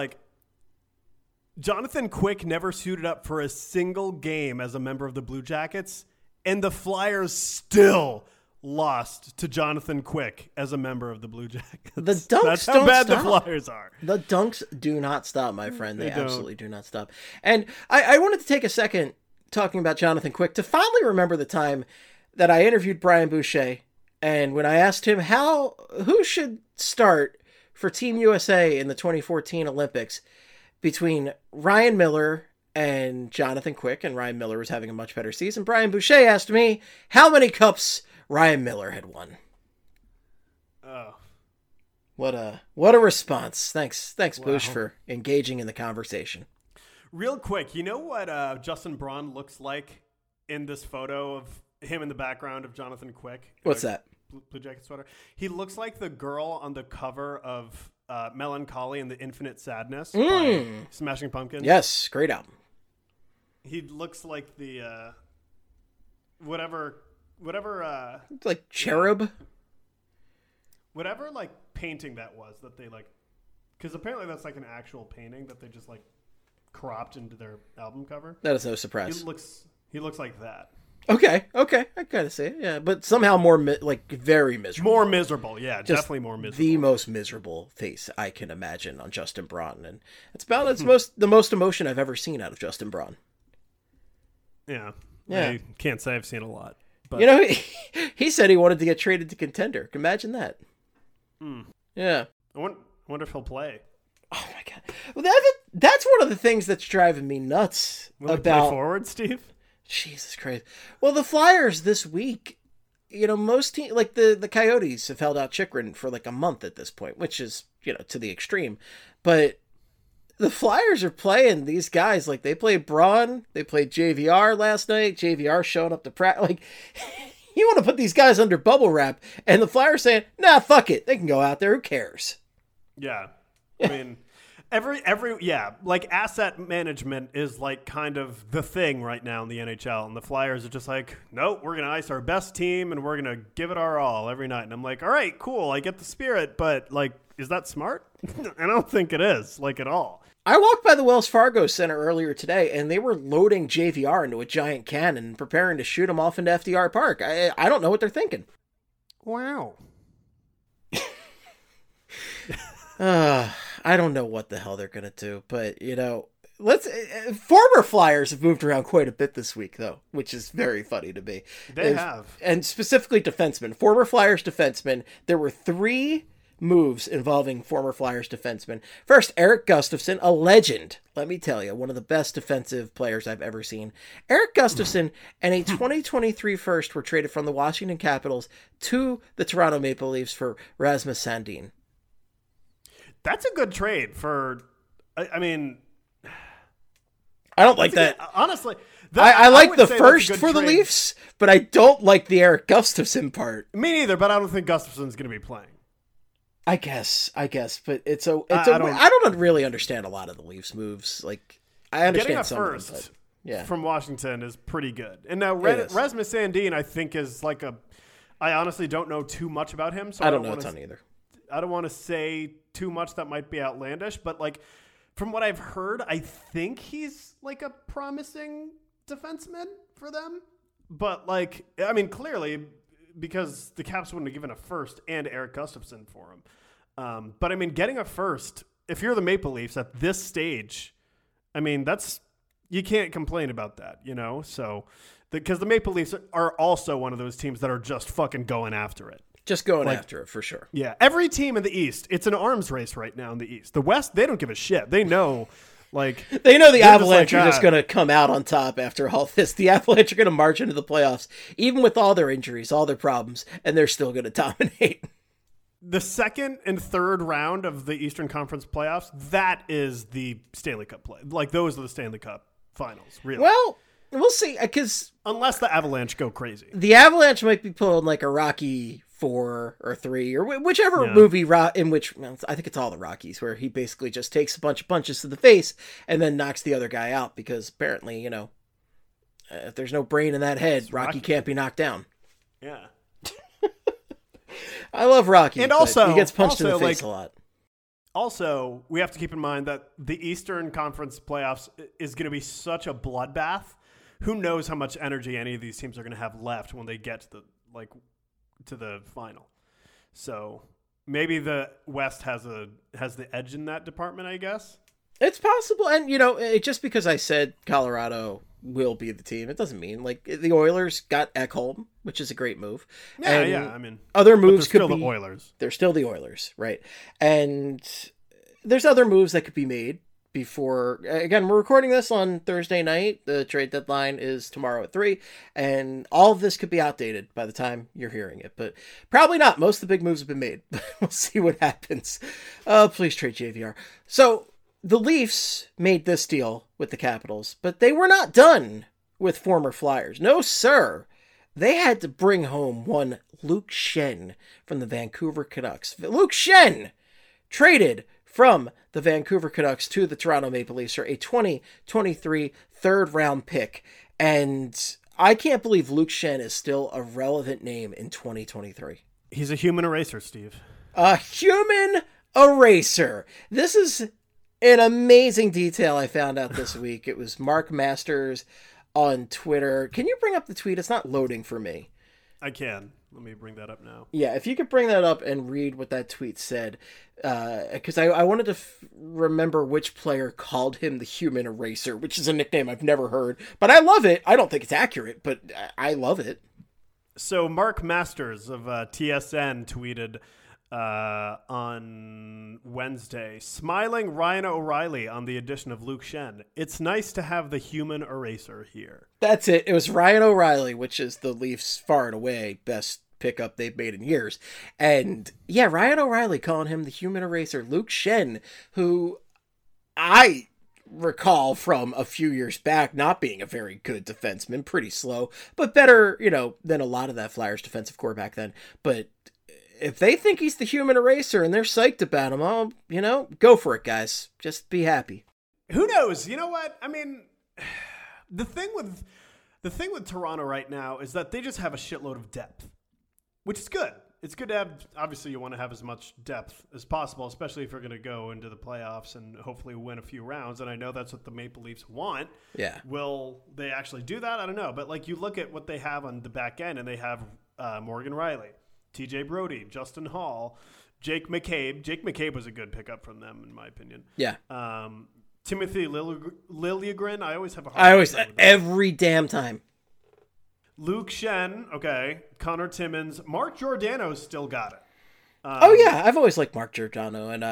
Jonathan Quick never suited up for a single game as a member of the Blue Jackets, and the Flyers still lost to Jonathan Quick as a member of the Blue Jackets. The dunks That's how bad stop. The Flyers are. The dunks do not stop, my friend. They absolutely do not stop. And I wanted to take a second talking about Jonathan Quick to finally remember the time that I interviewed Brian Boucher, and when I asked him who should start for Team USA in the 2014 Olympics between Ryan Miller and Jonathan Quick, and Ryan Miller was having a much better season, Brian Boucher asked me how many cups Ryan Miller had won. Oh. What a response. Thanks, Boosh, for engaging in the conversation. Real quick, you know what Justin Braun looks like in this photo of him in the background of Jonathan Quick? What's that? Blue Jacket sweater. He looks like the girl on the cover of Melancholy and the Infinite Sadness by Smashing Pumpkins. Yes, great album. He looks like the whatever like cherub. Whatever like painting that was that they like, because apparently that's like an actual painting that they just like cropped into their album cover. That is no surprise. He looks like that. Okay, I gotta say it, yeah, but somehow more very miserable. More miserable, yeah, Just definitely more miserable. The most miserable face I can imagine on Justin Braun, and it's about the most emotion I've ever seen out of Justin Braun. Yeah, yeah. I can't say I've seen a lot, but you know, he said he wanted to get traded to Contender. Imagine that. Yeah. I wonder if he'll play. Oh my god, well, that's one of the things that's driving me nuts Will he about play forward, Steve. Jesus Christ. Well, the Flyers this week, you know, most teams, like the Coyotes have held out Chychrun for like a month at this point, which is, you know, to the extreme. But the Flyers are playing these guys like they played Braun, they played JVR last night. JVR showing up to practice. Like, you want to put these guys under bubble wrap, and the Flyers saying, nah, fuck it. They can go out there. Who cares? Yeah. I mean, like asset management is like kind of the thing right now in the NHL, and the Flyers are just like, nope, we're gonna ice our best team and we're gonna give it our all every night. And I'm like, all right, cool, I get the spirit, but like, is that smart? I don't think it is, like, at all. I walked by the Wells Fargo Center earlier today, and they were loading JVR into a giant cannon and preparing to shoot him off into FDR Park. I don't know what they're thinking. Wow. I don't know what the hell they're going to do, but, you know, former Flyers have moved around quite a bit this week, though, which is very funny to me. They have. And specifically defensemen. Former Flyers defensemen, there were 3 moves involving former Flyers defensemen. First, Eric Gustafson, a legend. Let me tell you, one of the best defensive players I've ever seen. Eric Gustafson and a 2023 first were traded from the Washington Capitals to the Toronto Maple Leafs for Rasmus Sandin. That's a good trade for, I mean, I don't like that. Honestly, I like the first for the Leafs, but I don't like the Eric Gustafson part. Me neither, but I don't think Gustafson's going to be playing. I guess, but I don't really understand a lot of the Leafs moves. Like, I understand some first of them, but yeah, from Washington is pretty good. And now Rasmus Sandin, I think, is like I honestly don't know too much about him, so I don't know a ton either. I don't want to say too much that might be outlandish, but like from what I've heard, I think he's like a promising defenseman for them. But like, I mean, clearly, because the Caps wouldn't have given a first and Eric Gustafson for him. But I mean, getting a first, if you're the Maple Leafs at this stage, I mean, you can't complain about that, you know? So, because the Maple Leafs are also one of those teams that are just fucking going after it. Just going after it, for sure. Yeah. Every team in the East, it's an arms race right now in the East. The West, they don't give a shit. They know, like... They know the Avalanche are just going to come out on top after all this. The Avalanche are going to march into the playoffs, even with all their injuries, all their problems, and they're still going to dominate. The second and third round of the Eastern Conference playoffs, that is the Stanley Cup play. Like, those are the Stanley Cup finals, really. Well, we'll see, because... Unless the Avalanche go crazy. The Avalanche might be pulling like a Rocky 4 or 3 or whichever movie in which, I think it's all the Rockies, where he basically just takes a bunch of punches to the face and then knocks the other guy out because apparently, you know, if there's no brain in that head, Rocky can't be knocked down. Yeah. I love Rocky, and also he gets punched in the face a lot. Also, we have to keep in mind that the Eastern Conference playoffs is going to be such a bloodbath. Who knows how much energy any of these teams are going to have left when they get to the final. So maybe the West has the edge in that department, I guess. It's possible, and you know, just because I said Colorado will be the team, it doesn't mean like the Oilers got Ekholm, which is a great move. Yeah. I mean, other moves could still be the Oilers. They're still the Oilers, right? And there's other moves that could be made before, again, we're recording this on Thursday night. The trade deadline is tomorrow at 3, and all of this could be outdated by the time you're hearing it, but probably not. Most of the big moves have been made. We'll see what happens. Please trade JVR. So the Leafs made this deal with the Capitals, but they were not done with former Flyers. No, sir. They had to bring home one Luke Schenn from the Vancouver Canucks. Luke Schenn traded from the Vancouver Canucks to the Toronto Maple Leafs for a 2023 third-round pick. And I can't believe Luke Schenn is still a relevant name in 2023. He's a human eraser, Steve. A human eraser. This is an amazing detail I found out this week. It was Mark Masters on Twitter. Can you bring up the tweet? It's not loading for me. I can. Let me bring that up now. Yeah, if you could bring that up and read what that tweet said, because I wanted to remember which player called him the human eraser, which is a nickname I've never heard, but I love it. I don't think it's accurate, but I love it. So Mark Masters of TSN tweeted on Wednesday, smiling Ryan O'Reilly on the addition of Luke Schenn. It's nice to have the human eraser here. That's it. It was Ryan O'Reilly, which is the Leafs' far and away best pickup they've made in years. And yeah, Ryan O'Reilly calling him the human eraser. Luke Schenn, who I recall from a few years back not being a very good defenseman, pretty slow, but better, than a lot of that Flyers defensive core back then. But if they think he's the human eraser and they're psyched about him, go for it, guys. Just be happy. Who knows? You know what? I mean, the thing with Toronto right now is that they just have a shitload of depth, which is good. It's good to have, obviously you want to have as much depth as possible, especially if you're going to go into the playoffs and hopefully win a few rounds. And I know that's what the Maple Leafs want. Yeah. Will they actually do that? I don't know. But you look at what they have on the back end, and they have Morgan Riley, TJ Brody, Justin Hall, Jake McCabe. Jake McCabe was a good pickup from them, in my opinion. Yeah. Timothy Liljegren. I always have a hard time with that. Every damn time. Luke Schenn, okay. Connor Timmins. Mark Giordano's still got it. I've always liked Mark Giordano, and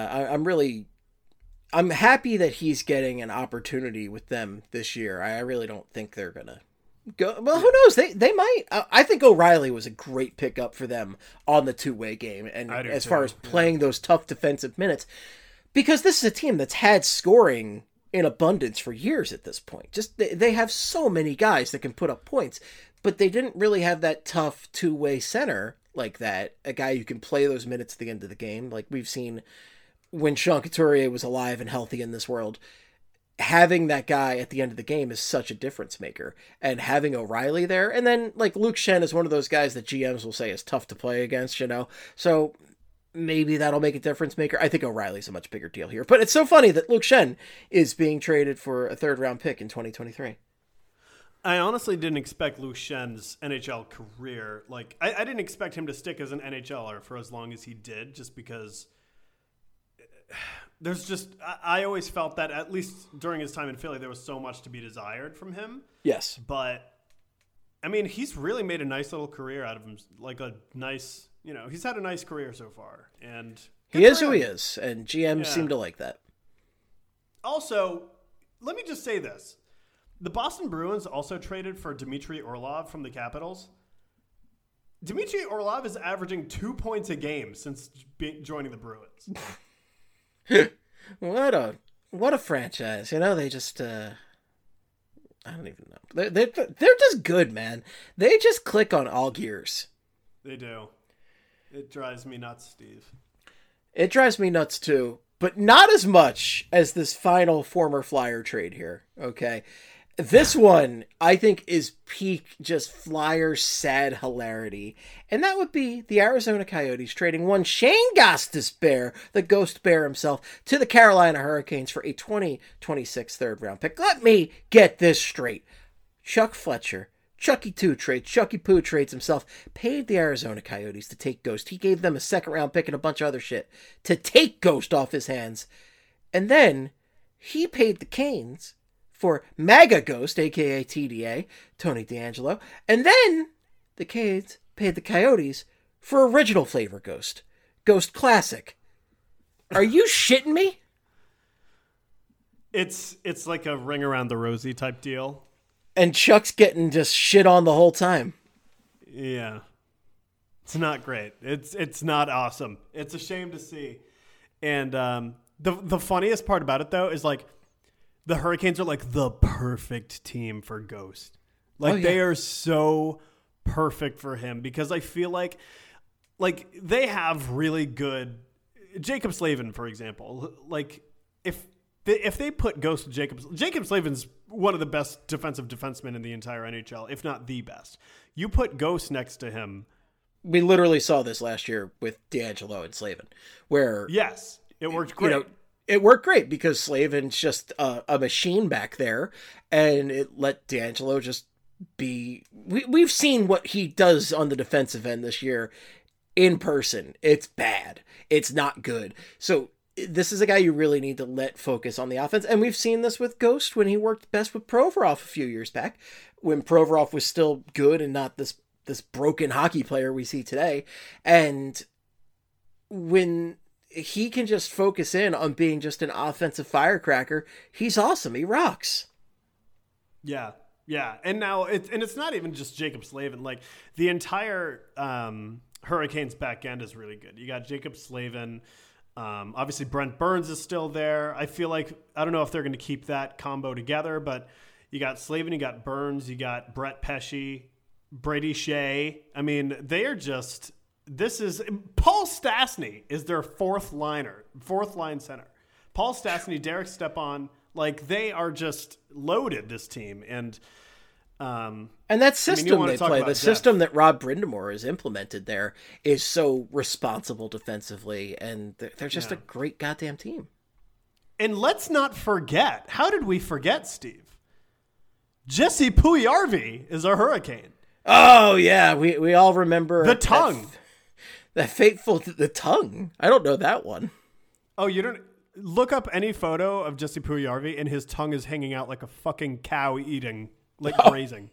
I'm happy that he's getting an opportunity with them this year. I really don't think they're gonna go. Well, who knows? They might. I think O'Reilly was a great pickup for them on the two-way game, and as far as playing those tough defensive minutes, because this is a team that's had scoring in abundance for years at this point. Just they have so many guys that can put up points, but they didn't really have that tough two-way center like that, a guy who can play those minutes at the end of the game. Like we've seen when Sean Couturier was alive and healthy in this world, having that guy at the end of the game is such a difference maker. And having O'Reilly there, and then Luke Schenn is one of those guys that GMs will say is tough to play against, So maybe that'll make a difference maker. I think O'Reilly's a much bigger deal here. But it's so funny that Luke Schenn is being traded for a third-round pick in 2023. I honestly didn't expect Luke Schenn's NHL career. I didn't expect him to stick as an NHLer for as long as he did, just because I always felt that, at least during his time in Philly, there was so much to be desired from him. Yes. But, I mean, he's really made a nice little career out of him. He's had a nice career so far. And he is who he is, and GMs seem to like that. Also, let me just say this. The Boston Bruins also traded for Dmitry Orlov from the Capitals. Dmitry Orlov is averaging 2 points a game since joining the Bruins. What a franchise. They just I don't even know. They're just good, man. They just click on all gears. They do. It drives me nuts, Steve. It drives me nuts too, but not as much as this final former Flyer trade here. Okay. This one, I think, is peak just Flyer sad hilarity. And that would be the Arizona Coyotes trading one Shane Gostisbehere, the Ghost Bear himself, to the Carolina Hurricanes for a 2026 third-round pick. Let me get this straight. Chuck Fletcher, Chucky Poo trades himself, paid the Arizona Coyotes to take Ghost. He gave them a second-round pick and a bunch of other shit to take Ghost off his hands. And then he paid the Canes for MAGA Ghost, a.k.a. TDA, Tony D'Angelo. And then the Canes paid the Coyotes for original flavor Ghost, Ghost Classic. Are you shitting me? It's like a ring around the rosy type deal. And Chuck's getting just shit on the whole time. Yeah. It's not great. It's not awesome. It's a shame to see. And the funniest part about it, though, is like the Hurricanes are like the perfect team for Ghost. Like they are so perfect for him because I feel like they have really good Jacob Slavin, for example. Like if they put Ghost with Jacob Slavin's one of the best defensive defensemen in the entire NHL, if not the best. You put Ghost next to him. We literally saw this last year with D'Angelo and Slavin, where yes, it worked great. It worked great because Slavin's just a machine back there, and it let D'Angelo just be. We've seen what he does on the defensive end this year in person. It's bad. It's not good. So this is a guy you really need to let focus on the offense, and we've seen this with Ghost when he worked best with Provorov a few years back, when Provorov was still good and not this broken hockey player we see today. And when he can just focus in on being just an offensive firecracker, he's awesome. He rocks. Yeah. Yeah. And now it's not even just Jacob Slavin. Like the entire Hurricanes back end is really good. You got Jacob Slavin. Obviously Brent Burns is still there. I feel like, I don't know if they're going to keep that combo together, but you got Slavin, you got Burns, you got Brett Pesce, Brady Shea. I mean, they are just, Paul Stastny is their fourth line center. Paul Stastny, Derek Stepan, like they are just loaded, this team. And that system they play, the system that Rob Brindamore has implemented there is so responsible defensively, and they're just a great goddamn team. And let's not forget, how did we forget, Steve? Jesse Puljujarvi is a Hurricane. Oh, yeah. We all remember the tongue. That fateful, the tongue. I don't know that one. Oh, you don't? Look up any photo of Jesse Puljujarvi and his tongue is hanging out like a fucking cow eating, like grazing.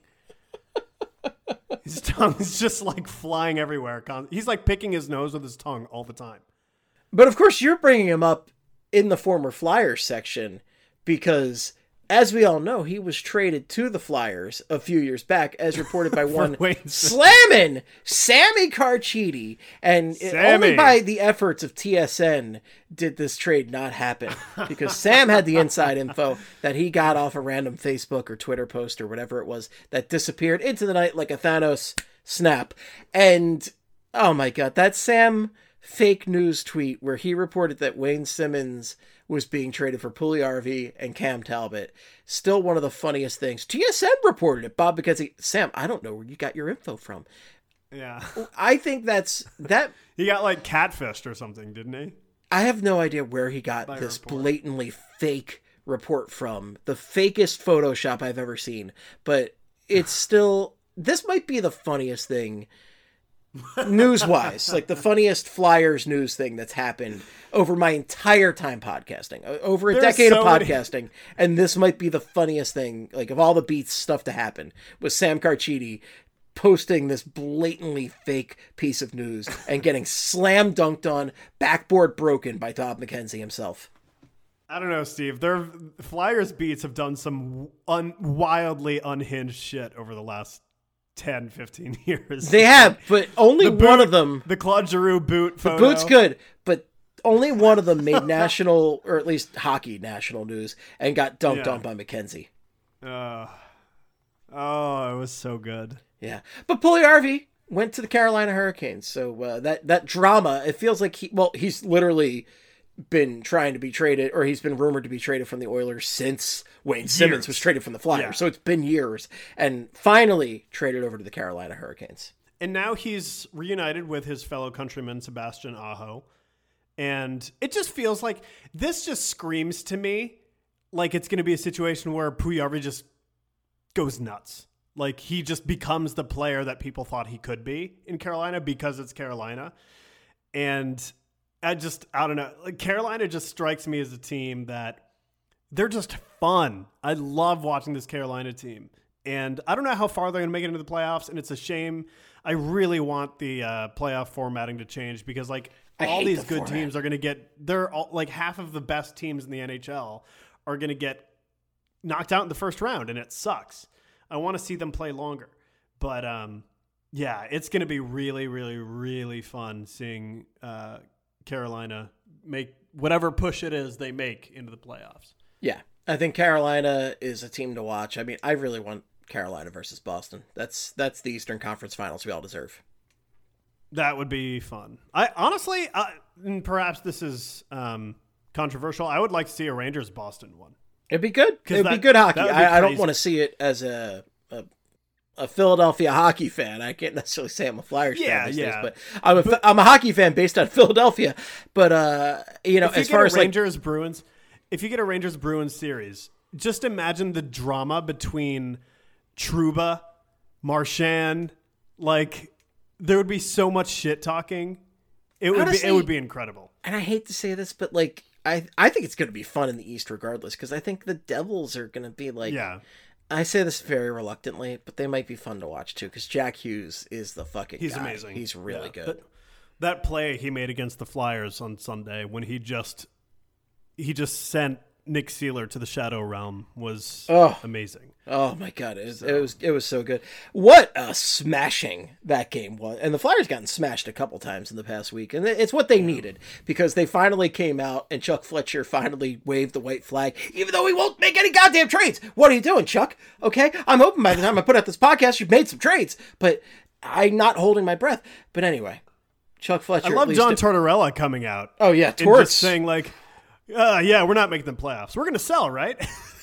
His tongue's just like flying everywhere. He's like picking his nose with his tongue all the time. But of course, you're bringing him up in the former Flyers section because, as we all know, he was traded to the Flyers a few years back, as reported by one slamming Sammy Carchidi. And only by the efforts of TSN did this trade not happen, because Sam had the inside info that he got off a random Facebook or Twitter post or whatever it was that disappeared into the night like a Thanos snap. And, oh my God, that Sam fake news tweet where he reported that Wayne Simmons was being traded for Puljujarvi and Cam Talbot. Still one of the funniest things. TSN reported it, Bob, because Sam, I don't know where you got your info from. Yeah. I think that. He got like catfished or something, didn't he? I have no idea where he got this blatantly fake report from. The fakest Photoshop I've ever seen. But it's still, this might be the funniest thing news-wise, like the funniest Flyers news thing that's happened over my entire time podcasting, over a decade of podcasting, and this might be the funniest thing, like of all the beats stuff to happen, was Sam Carchidi posting this blatantly fake piece of news and getting slam dunked on, backboard broken by Todd McKenzie himself. I don't know, Steve. Their Flyers beats have done some wildly unhinged shit over the last 10, 15 years. They have, but only one of them. The Claude Giroux boot photo. The boot's good, but only one of them made national, or at least hockey national news, and got dunked on by McKenzie. Oh, it was so good. Yeah. But Puljujarvi went to the Carolina Hurricanes, so that drama, it feels like he's literally been trying to be traded, or he's been rumored to be traded from the Oilers since Wayne Simmons was traded from the Flyers. Yeah. So it's been years, and finally traded over to the Carolina Hurricanes. And now he's reunited with his fellow countryman, Sebastian Aho. And it just feels like, this just screams to me like it's going to be a situation where Puljujarvi just goes nuts. Like he just becomes the player that people thought he could be in Carolina because it's Carolina. And I don't know. Like Carolina just strikes me as a team that they're just fun. I love watching this Carolina team. And I don't know how far they're going to make it into the playoffs. And it's a shame. I really want the playoff formatting to change because like all these good teams are going to they're all, like half of the best teams in the NHL are going to get knocked out in the first round, and it sucks. I want to see them play longer. But, yeah, it's going to be really, really, really fun seeing Carolina make whatever push it is they make into the playoffs. Yeah, I think Carolina is a team to watch. I mean, I really want Carolina versus Boston. That's the Eastern Conference Finals we all deserve. That would be fun. I honestly, and perhaps this is controversial, I would like to see a Rangers-Boston one. It'd be good. It'd be good hockey. I don't want to see it as a Philadelphia hockey fan. I can't necessarily say I'm a Flyers fan these days, but I'm a hockey fan based on Philadelphia. But as far as Rangers-Bruins, if you get a Rangers-Bruins series, just imagine the drama between Trouba, Marchand, there would be so much shit talking. It would be incredible. And I hate to say this, but I think it's going to be fun in the East regardless, because I think the Devils are going to be I say this very reluctantly, but they might be fun to watch too, because Jack Hughes is the fucking guy. He's amazing. He's really good. That play he made against the Flyers on Sunday when he just sent Nick Seeler to the Shadow Realm was amazing. Oh my God. It was so good. What a smashing that game was. And the Flyers gotten smashed a couple times in the past week. And it's what they needed, because they finally came out and Chuck Fletcher finally waved the white flag, even though he won't make any goddamn trades. What are you doing, Chuck? Okay. I'm hoping by the time I put out this podcast, you've made some trades, but I'm not holding my breath. But anyway, Chuck Fletcher. I love John Tortorella coming out. Oh yeah. And just saying yeah, we're not making the playoffs. We're going to sell, right?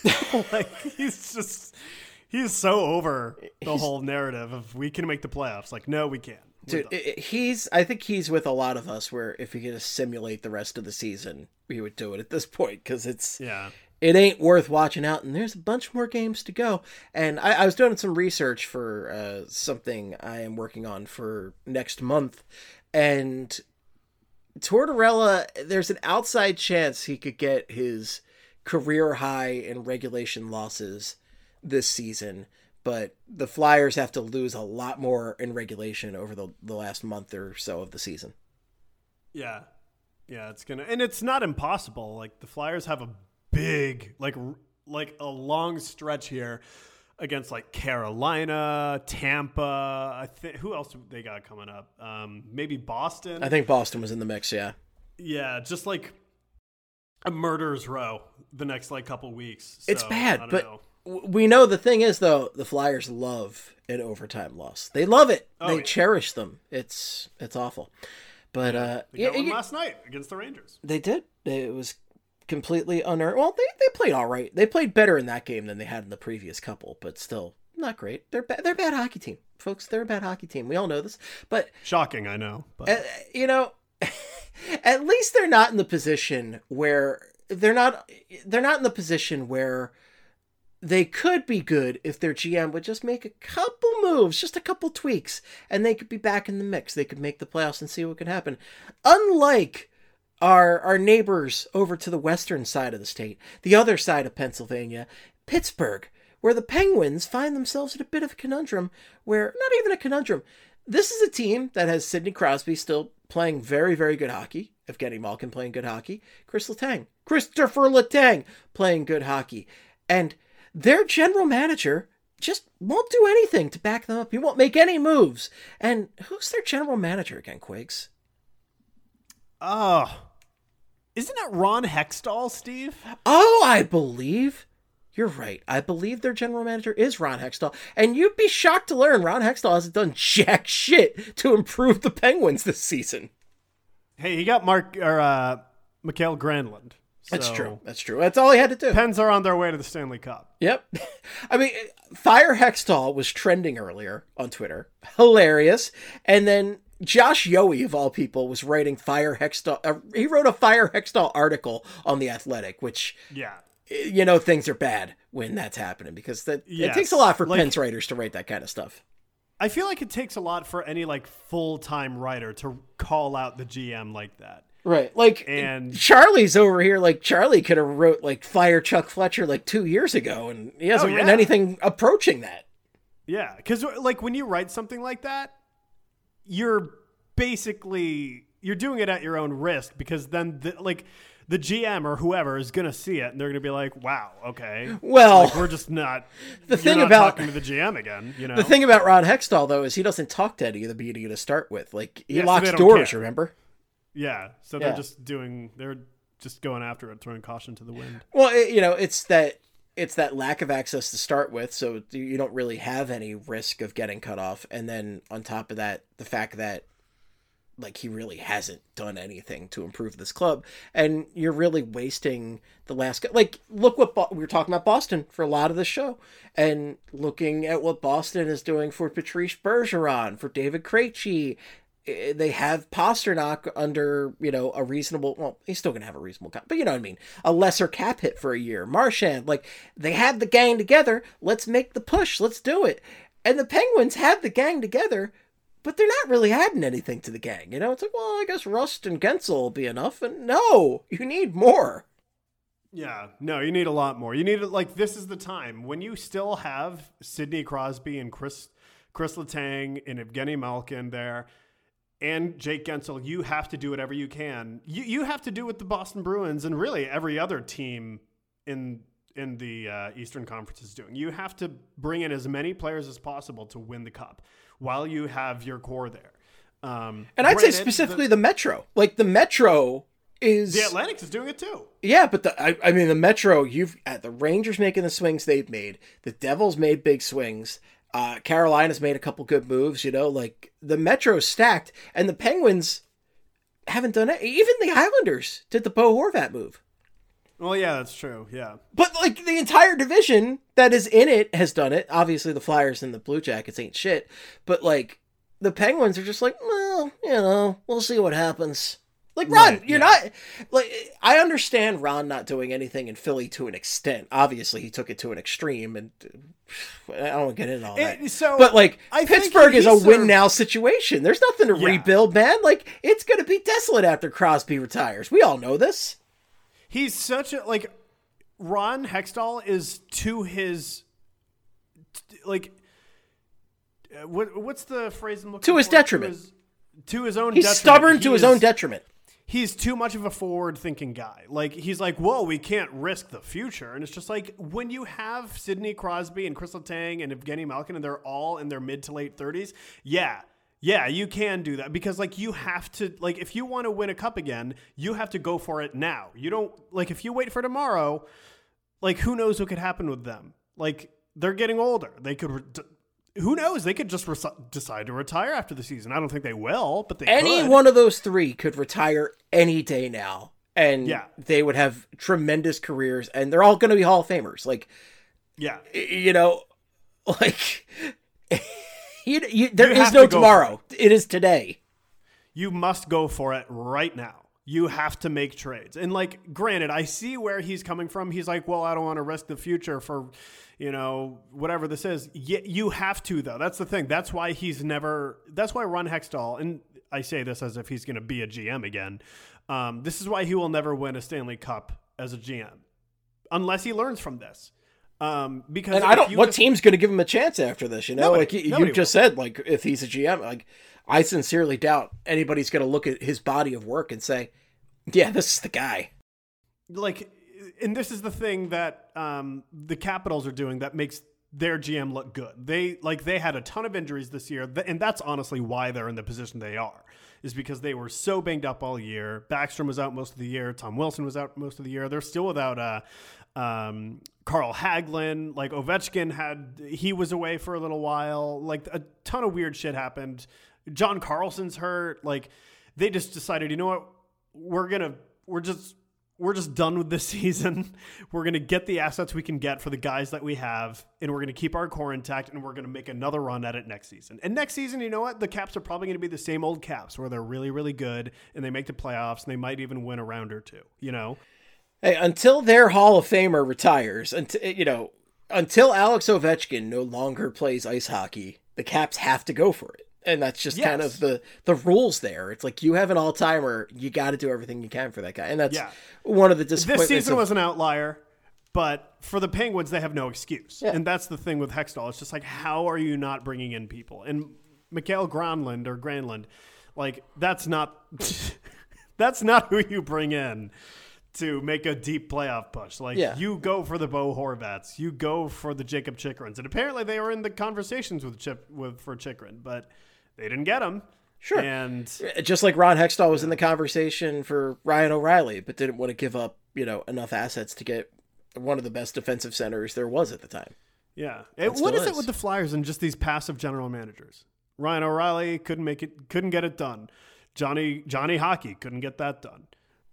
He's so over the whole narrative of we can make the playoffs. No, we can't. Dude, I think he's with a lot of us where if he could just simulate the rest of the season, we would do it at this point, because it ain't worth watching out, and there's a bunch more games to go. And I was doing some research for something I am working on for next month, and Tortorella, there's an outside chance he could get his career high in regulation losses this season, but the Flyers have to lose a lot more in regulation over the last month or so of the season. Yeah, it's and it's not impossible. The Flyers have a big, a long stretch here against Carolina, Tampa. I think who else they got coming up? Maybe Boston. I think Boston was in the mix. Yeah. Yeah, just a murderer's row the next couple weeks. So, it's bad, but we know the thing is though, the Flyers love an overtime loss. They love it. They cherish them. It's awful. But they got one last night against the Rangers. They did. It was completely unearned. Well, they played all right. They played better in that game than they had in the previous couple, but still not great. They're a bad hockey team, folks. They're a bad hockey team. We all know this, but shocking. I know, but at least they're not in the position where they're not in the position where they could be good if their GM would just make a couple moves, just a couple tweaks, and they could be back in the mix. They could make the playoffs and see what could happen. Unlike our neighbors over to the western side of the state, the other side of Pennsylvania, Pittsburgh, where the Penguins find themselves in a bit of a conundrum, where, not even a conundrum, this is a team that has Sidney Crosby still playing very, very good hockey, Evgeny Malkin playing good hockey, Christopher Letang playing good hockey, and their general manager just won't do anything to back them up. He won't make any moves. And who's their general manager again, Quiggs? Isn't it Ron Hextall, Steve? Oh, I believe you're right. I believe their general manager is Ron Hextall. And you'd be shocked to learn Ron Hextall hasn't done jack shit to improve the Penguins this season. Hey, he got Mikael Granlund. So That's true. That's all he had to do. Pens are on their way to the Stanley Cup. Yep. I mean, Fire Hextall was trending earlier on Twitter. Hilarious. And then Josh Yohe, of all people, was writing Fire Hextall. He wrote a Fire Hextall article on The Athletic, which, things are bad when that's happening, because it takes a lot for Pens writers to write that kind of stuff. I feel like it takes a lot for any full-time writer to call out the GM like that. Right. And Charlie's over here. Charlie could have wrote fire Chuck Fletcher 2 years ago, and he hasn't written anything approaching that. Yeah. Because when you write something like that, you're doing it at your own risk, because then the GM or whoever is going to see it, and they're going to be like, "Wow, okay." Well, like, we're just not. The thing not about talking to the GM again, you know. The thing about Ron Hextall though is he doesn't talk to any of the media to start with. Like he Yeah, so locks they don't doors. care. Remember? Yeah, so they're just going after it, throwing caution to the wind. Well, it's that lack of access to start with, so you don't really have any risk of getting cut off. And then on top of that, the fact that like he really hasn't done anything to improve this club, and you're really wasting the last. Like, look what we were talking about Boston for a lot of the show, and looking at what Boston is doing for Patrice Bergeron, for David Krejci. They have Pasternak under, a reasonable, well, he's still going to have a reasonable cap, but you know what I mean? A lesser cap hit for a year. Marchand, like, they have the gang together. Let's make the push. Let's do it. And the Penguins have the gang together, but they're not really adding anything to the gang. It's like, well, I guess Rust and Gensel will be enough. And no, you need more. Yeah, no, you need a lot more. You need, like, this is the time when you still have Sidney Crosby and Chris Letang and Evgeny Malkin there. And Jake Gensel, you have to do whatever you can. You have to do what the Boston Bruins and really every other team in the Eastern Conference is doing. You have to bring in as many players as possible to win the cup while you have your core there. And I'd say specifically the Metro. Like the Metro is... The Atlantic is doing it too. Yeah, but the Metro, the Rangers making the swings they've made. The Devils made big swings. Carolina's made a couple good moves, like the Metro's stacked, and the Penguins haven't done it. Even the Islanders did the Bo Horvat move. Well, yeah, that's true. Yeah. But like the entire division that is in it has done it. Obviously the Flyers and the Blue Jackets ain't shit, but like the Penguins are just like, well, we'll see what happens. Like, Ron, you're not... Like, I understand Ron not doing anything in Philly to an extent. Obviously, he took it to an extreme, and I don't want to get into all that. But, like, Pittsburgh is a win-now situation. There's nothing to rebuild, man. Like, it's going to be desolate after Crosby retires. We all know this. He's such a... Like, Ron Hextall is to his... Like... What's the phrase I'm looking for? To his detriment. To his own detriment. He's stubborn to his own detriment. He's too much of a forward-thinking guy. Like, he's like, whoa, we can't risk the future. And it's just like, when you have Sidney Crosby and Chris Letang and Evgeny Malkin, and they're all in their mid to late 30s, yeah, you can do that. Because, like, you have to, like, if you want to win a cup again, you have to go for it now. You don't, like, if you wait for tomorrow, like, who knows what could happen with them? Like, they're getting older. They could... Who knows? They could just decide to retire after the season. I don't think they will, but they Any could. one of those three could retire any day now, and they would have tremendous careers, and they're all going to be Hall of Famers. Like, like there is no tomorrow. It is today. You must go for it right now. You have to make trades. And, like, granted, I see where he's coming from. He's like, well, I don't want to risk the future for, whatever this is. You have to, though. That's the thing. That's why that's why Ron Hextall, and I say this as if he's going to be a GM again. This is why he will never win a Stanley Cup as a GM unless he learns from this. Because what team's going to give him a chance after this? Nobody, you just said, like, if he's a GM, like, I sincerely doubt anybody's going to look at his body of work and say, yeah, this is the guy. Like, and this is the thing that the Capitals are doing that makes their GM look good. They had a ton of injuries this year, and that's honestly why they're in the position they are, is because they were so banged up all year. Backstrom was out most of the year. Tom Wilson was out most of the year. They're still without Carl Hagelin. Like, Ovechkin he was away for a little while. Like, a ton of weird shit happened. John Carlson's hurt. Like, they just decided, you know what? We're just done with this season. We're going to get the assets we can get for the guys that we have, and we're going to keep our core intact, and we're going to make another run at it next season. And next season, you know what? The Caps are probably going to be the same old Caps, where they're really, really good, and they make the playoffs, and they might even win a round or two, Hey, until their Hall of Famer retires, until Alex Ovechkin no longer plays ice hockey, the Caps have to go for it. And that's just kind of the rules there. It's like, you have an all-timer, you got to do everything you can for that guy. And that's one of the disappointments. This season was an outlier, but for the Penguins, they have no excuse. Yeah. And that's the thing with Hextall. It's just like, how are you not bringing in people? And Mikael Granlund, like, that's not who you bring in to make a deep playoff push. Like, you go for the Bo Horvats, you go for the Jacob Chychrins. And apparently they were in the conversations for Chychrun, but they didn't get him. Sure. And just like Ron Hextall was in the conversation for Ryan O'Reilly, but didn't want to give up, enough assets to get one of the best defensive centers there was at the time. Yeah. What is it with the Flyers and just these passive general managers? Ryan O'Reilly couldn't get it done. Johnny Hockey couldn't get that done.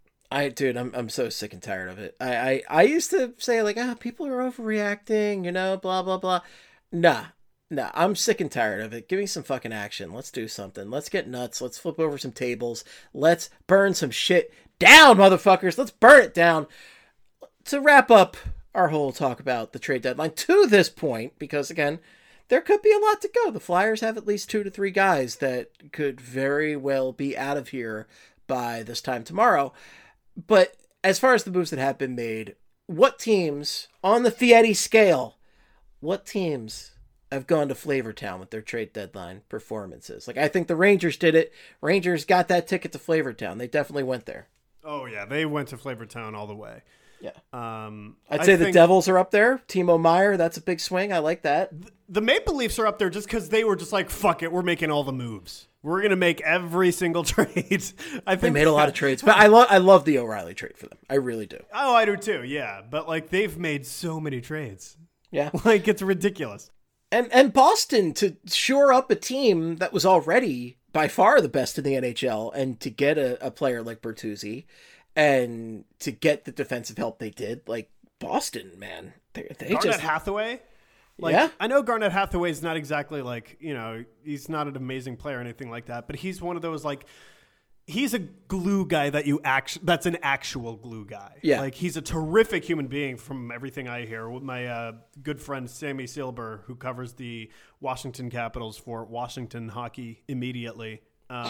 I'm so sick and tired of it. I used to say like, people are overreacting, blah, blah, blah. Nah, I'm sick and tired of it. Give me some fucking action. Let's do something. Let's get nuts. Let's flip over some tables. Let's burn some shit down, motherfuckers. Let's burn it down. To wrap up our whole talk about the trade deadline to this point, because again, there could be a lot to go. The Flyers have at least 2 to 3 guys that could very well be out of here by this time tomorrow. But as far as the moves that have been made, what teams on the Fieri scale, what teams have gone to Flavortown with their trade deadline performances? Like, I think the Rangers did it. Rangers got that ticket to Flavortown. They definitely went there. Oh, yeah. They went to Flavortown all the way. Yeah. I'd say the Devils are up there. Timo Meier, that's a big swing. I like that. The Maple Leafs are up there just because they were just like, fuck it, we're making all the moves. We're going to make every single trade. I think they made a lot of trades. But I love the O'Reilly trade for them. I really do. Oh, I do too, yeah. But like, they've made so many trades. Yeah. Like, it's ridiculous. And Boston, to shore up a team that was already by far the best in the NHL, and to get a player like Bertuzzi, and to get the defensive help they did, like Boston, man, they Garnet just Hathaway. Like, yeah. I know Garnet Hathaway is not exactly like, he's not an amazing player or anything like that, but he's one of those like, he's a glue guy that's an actual glue guy. Yeah. Like, he's a terrific human being from everything I hear. With my good friend Sammy Silber, who covers the Washington Capitals for Washington Hockey Immediately.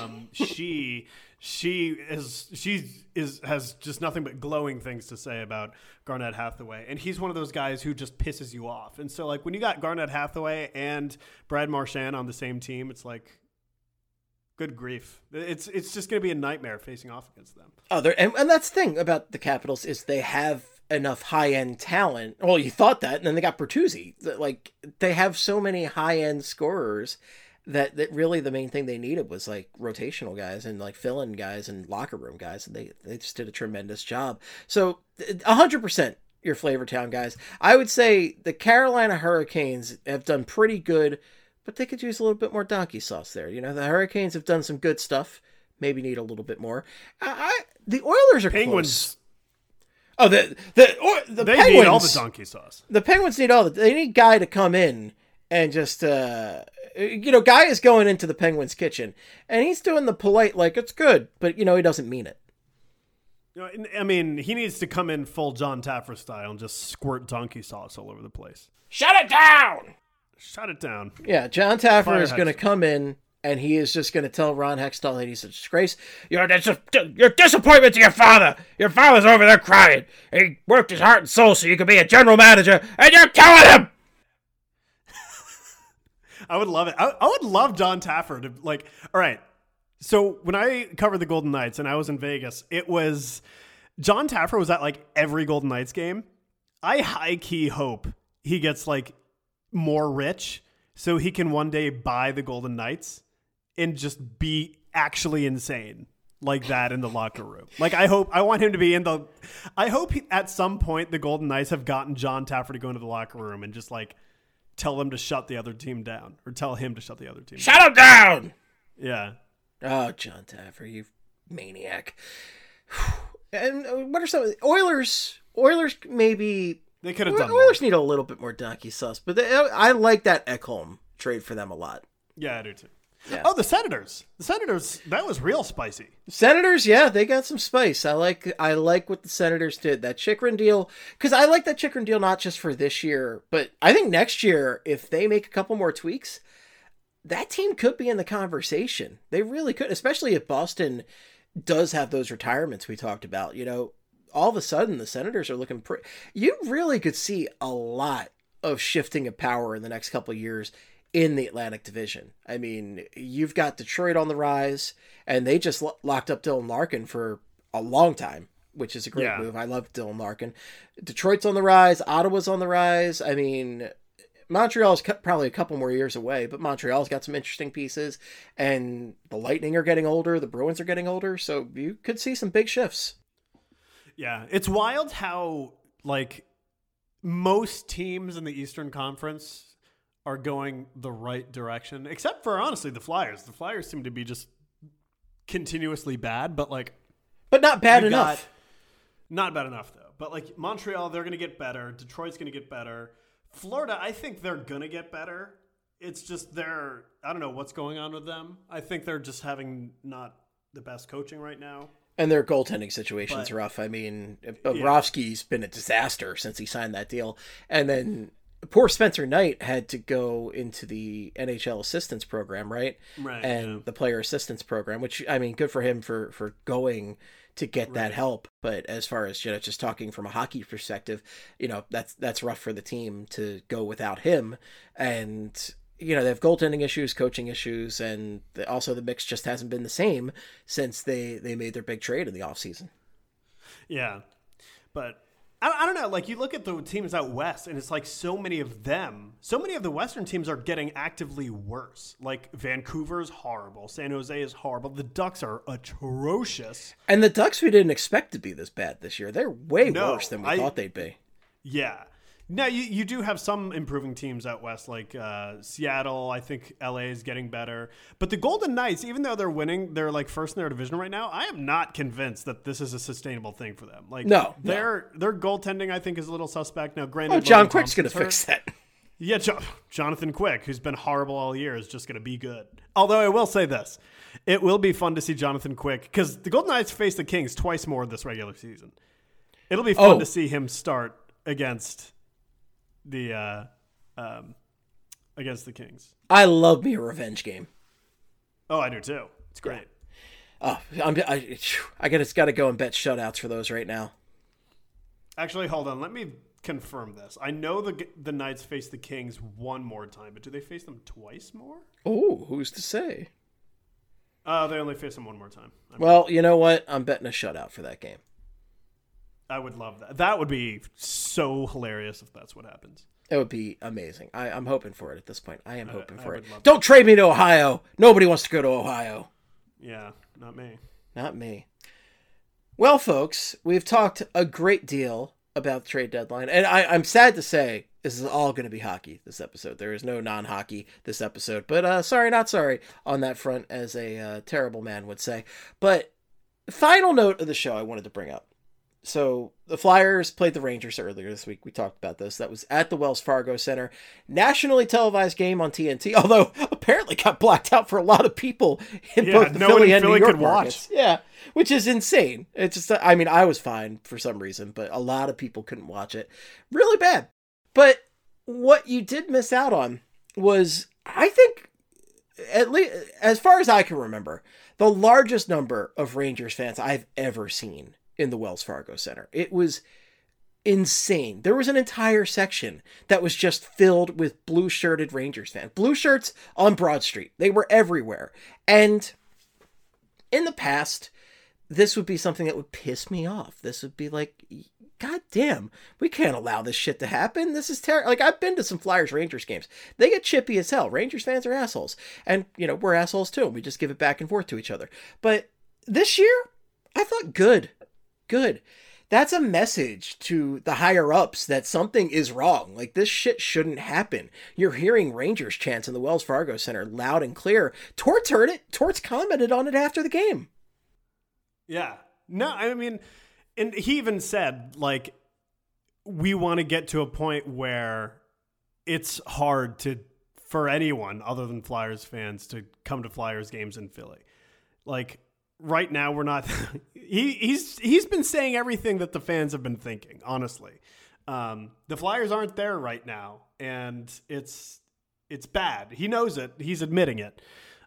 She has just nothing but glowing things to say about Garnet Hathaway. And he's one of those guys who just pisses you off. And so like, when you got Garnet Hathaway and Brad Marchand on the same team, it's like, good grief. It's just going to be a nightmare facing off against them. Oh, and that's the thing about the Capitals is they have enough high-end talent. Well, you thought that, and then they got Bertuzzi. Like, they have so many high-end scorers that really the main thing they needed was like rotational guys and like fill-in guys and locker room guys. And they just did a tremendous job. So 100% your Flavortown guys. I would say the Carolina Hurricanes have done pretty good, but they could use a little bit more donkey sauce there. The Hurricanes have done some good stuff. Maybe need a little bit more. The Oilers are Penguins. Close. Oh, the they Penguins need all the donkey sauce. The Penguins need they need Guy to come in and just Guy is going into the Penguins kitchen and he's doing the polite like it's good, but he doesn't mean it. I mean, he needs to come in full John Taffer style and just squirt donkey sauce all over the place. Shut it down. Shut it down. Yeah, John Taffer is going to come in, and he is just going to tell Ron Hextall that he's a disgrace. You're disappointment to your father. Your father's over there crying. He worked his heart and soul so you could be a general manager, and you're killing him! I would love it. I would love John Taffer to, like, all right. So when I covered the Golden Knights and I was in Vegas, it was John Taffer was at like every Golden Knights game. I high-key hope he gets like more rich so he can one day buy the Golden Knights and just be actually insane like that in the locker room. Like, I want him to be I hope at some point the Golden Knights have gotten John Taffer to go into the locker room and just like tell them to shut the other team down, or tell him to shut the other team down. Shut him down! Yeah. Oh, John Taffer, you maniac. And what are some Oilers? Oilers maybe they could have done. Oilers more. Need a little bit more donkey sauce, but I like that Ekholm trade for them a lot. Yeah, I do too. Yeah. Oh, the Senators. The Senators, that was real spicy. Senators, yeah, they got some spice. I like what the Senators did. That Chychrun deal, because I like that Chychrun deal not just for this year, but I think next year, if they make a couple more tweaks, that team could be in the conversation. They really could, especially if Boston does have those retirements we talked about. All of a sudden, the Senators are looking pretty... You really could see a lot of shifting of power in the next couple of years in the Atlantic Division. I mean, you've got Detroit on the rise, and they just locked up Dylan Larkin for a long time. which is a great move. I love Dylan Larkin. Detroit's on the rise. Ottawa's on the rise. I mean, Montreal's probably a couple more years away, but Montreal's got some interesting pieces, and the Lightning are getting older. The Bruins are getting older, so you could see some big shifts. Yeah, it's wild how, like, most teams in the Eastern Conference are going the right direction, except for, honestly, the Flyers. The Flyers seem to be just continuously bad, but not bad enough. Not bad enough, though. But, like, Montreal, they're going to get better. Detroit's going to get better. Florida, I think they're going to get better. It's just I don't know what's going on with them. I think they're just having not the best coaching right now. And their goaltending situation's rough. I mean, Bobrovsky's been a disaster since he signed that deal. And then poor Spencer Knight had to go into the NHL assistance program, right? Right. And the player assistance program, which, I mean, good for him for going to get that help. But as far as, just talking from a hockey perspective, that's rough for the team to go without him. And they have goaltending issues, coaching issues, and also the mix just hasn't been the same since they made their big trade in the offseason. Yeah. But I don't know. Like, you look at the teams out west, and it's like so many of the Western teams are getting actively worse. Like, Vancouver's horrible. San Jose is horrible. The Ducks are atrocious. And the Ducks we didn't expect to be this bad this year. They're way worse than we thought they'd be. Yeah. Now, you do have some improving teams out west, like Seattle. I think LA is getting better. But the Golden Knights, even though they're winning, they're like first in their division right now. I am not convinced that this is a sustainable thing for them. Like, their goaltending, I think, is a little suspect. Now, granted, John Quick's going to fix that. Yeah, Jonathan Quick, who's been horrible all year, is just going to be good. Although I will say this. It will be fun to see Jonathan Quick, because the Golden Knights face the Kings twice more this regular season. It'll be fun to see him start against the Kings. I love me a revenge game. Oh, I do too. It's great. Oh, I got to go and bet shutouts for those right now. Actually, hold on. Let me confirm this. I know the Knights face the Kings one more time, but do they face them twice more? Oh, who's to say? They only face them one more time. Well, you know what? I'm betting a shutout for that game. I would love that. That would be so hilarious if that's what happens. It would be amazing. I'm hoping for it at this point. I am hoping for it. Don't trade me to Ohio. Nobody wants to go to Ohio. Yeah, not me. Not me. Well, folks, we've talked a great deal about the trade deadline. And I'm sad to say this is all going to be hockey this episode. There is no non-hockey this episode. But sorry, not sorry on that front, as a terrible man would say. But final note of the show I wanted to bring up. So the Flyers played the Rangers earlier this week. We talked about this. That was at the Wells Fargo Center. Nationally televised game on TNT, although apparently got blacked out for a lot of people in both the Philly and New York markets. Yeah, which is insane. It's just, I mean, I was fine for some reason, but a lot of people couldn't watch it. Really bad. But what you did miss out on was, I think, at least as far as I can remember, the largest number of Rangers fans I've ever seen in the Wells Fargo Center. It was insane. There was an entire section that was just filled with blue-shirted Rangers fans. Blue shirts on Broad Street. They were everywhere. And in the past, this would be something that would piss me off. This would be like, God damn, we can't allow this shit to happen. This is terrible. Like, I've been to some Flyers-Rangers games. They get chippy as hell. Rangers fans are assholes. And, we're assholes too. We just give it back and forth to each other. But this year, I thought good. That's a message to the higher ups that something is wrong. Like, this shit shouldn't happen. You're hearing Rangers chants in the Wells Fargo Center loud and clear. Torts heard it. Torts commented on it after the game. Yeah. No, I mean, and he even said, like, we want to get to a point where it's hard for anyone other than Flyers fans to come to Flyers games in Philly. Like, right now, we're not. He's been saying everything that the fans have been thinking. Honestly, the Flyers aren't there right now, and it's bad. He knows it. He's admitting it.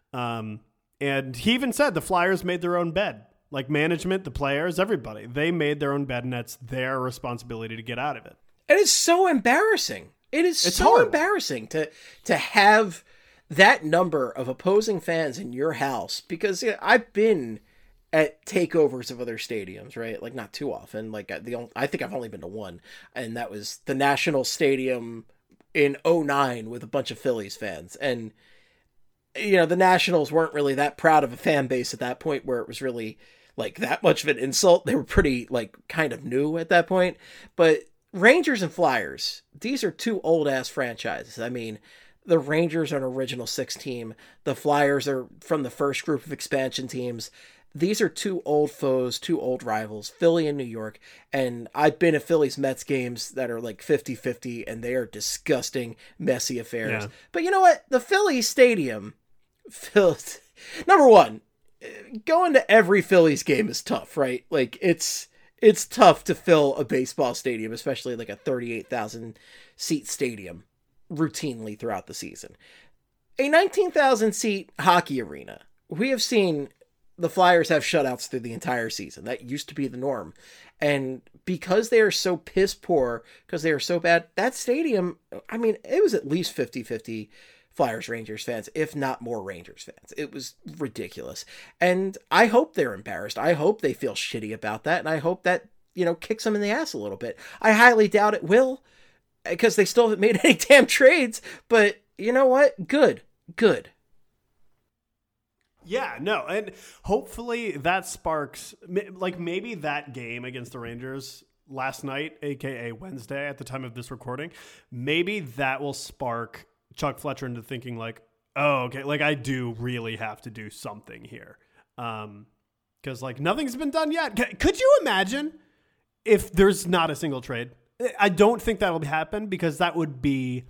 And he even said the Flyers made their own bed. Like, management, the players, everybody, they made their own bed, and that's their responsibility to get out of it. And it's so embarrassing. It's so horrible. Embarrassing to have that number of opposing fans in your house, because I've been at takeovers of other stadiums, right? Like not too often. Like I think I've only been to one, and that was the National Stadium in '09 with a bunch of Phillies fans. And the Nationals weren't really that proud of a fan base at that point where it was really like that much of an insult. They were pretty like kind of new at that point. But Rangers and Flyers, these are two old ass franchises. I mean, the Rangers are an original 6 team. The Flyers are from the first group of expansion teams. These are two old foes, two old rivals, Philly and New York. And I've been at Phillies Mets games that are like 50-50, and they are disgusting, messy affairs. Yeah. But you know what? The Phillies stadium, number one, going to every Phillies game is tough, right? Like it's tough to fill a baseball stadium, especially like a 38,000 seat stadium routinely throughout the season. A 19,000 seat hockey arena. We have seen the Flyers have shutouts through the entire season. That used to be the norm. And because they are so piss poor, because they are so bad, that stadium, I mean, it was at least 50-50 Flyers Rangers fans, if not more Rangers fans. It was ridiculous. And I hope they're embarrassed. I hope they feel shitty about that. And I hope that, kicks them in the ass a little bit. I highly doubt it will, because they still haven't made any damn trades. But you know what? Good. Yeah, no, and hopefully that sparks, like maybe that game against the Rangers last night, aka Wednesday at the time of this recording, maybe that will spark Chuck Fletcher into thinking like, oh, okay, like I do really have to do something here. Because like nothing's been done yet. Could you imagine if there's not a single trade? I don't think that will happen, because that would be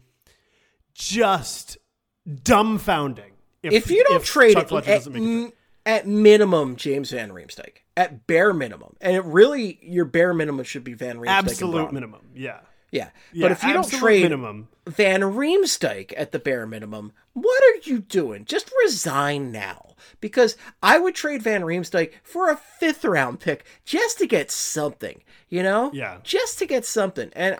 just dumbfounding. If you don't trade it, at minimum, James Van Riemsdyk. At bare minimum. And your bare minimum should be Van Riemsdyk. Absolute minimum, yeah. Yeah. But if you don't trade Van Riemsdyk at the bare minimum, what are you doing? Just resign now. Because I would trade Van Riemsdyk for a 5th round pick just to get something, Yeah. Just to get something. And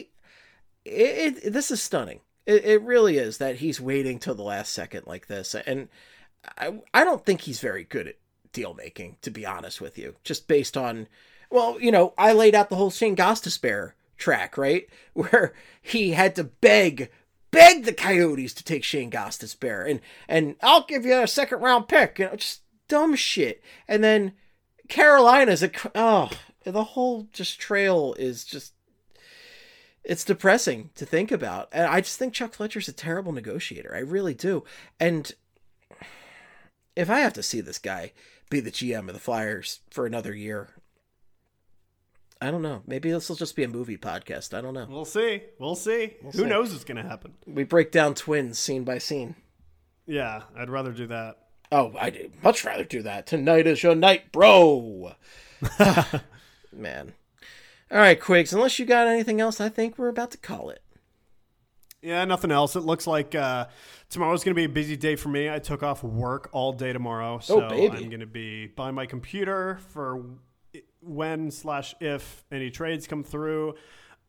this is stunning. It really is that he's waiting till the last second like this. And I don't think he's very good at deal making, to be honest with you. Just based on, I laid out the whole Shane Gostisbehere track, right? Where he had to beg the Coyotes to take Shane Gostisbehere. And I'll give you a 2nd round pick. Just dumb shit. And then Carolina's the whole just trail is just, it's depressing to think about. And I just think Chuck Fletcher's a terrible negotiator. I really do. And if I have to see this guy be the GM of the Flyers for another year, I don't know. Maybe this will just be a movie podcast. I don't know. We'll see. Who knows what's going to happen? We break down Twins scene by scene. Yeah, I'd rather do that. Oh, I'd much rather do that. Tonight is your night, bro. Man. All right, Quiggs, unless you got anything else, I think we're about to call it. Yeah, nothing else. It looks like tomorrow's going to be a busy day for me. I took off work all day tomorrow, so I'm going to be by my computer for when/if any trades come through.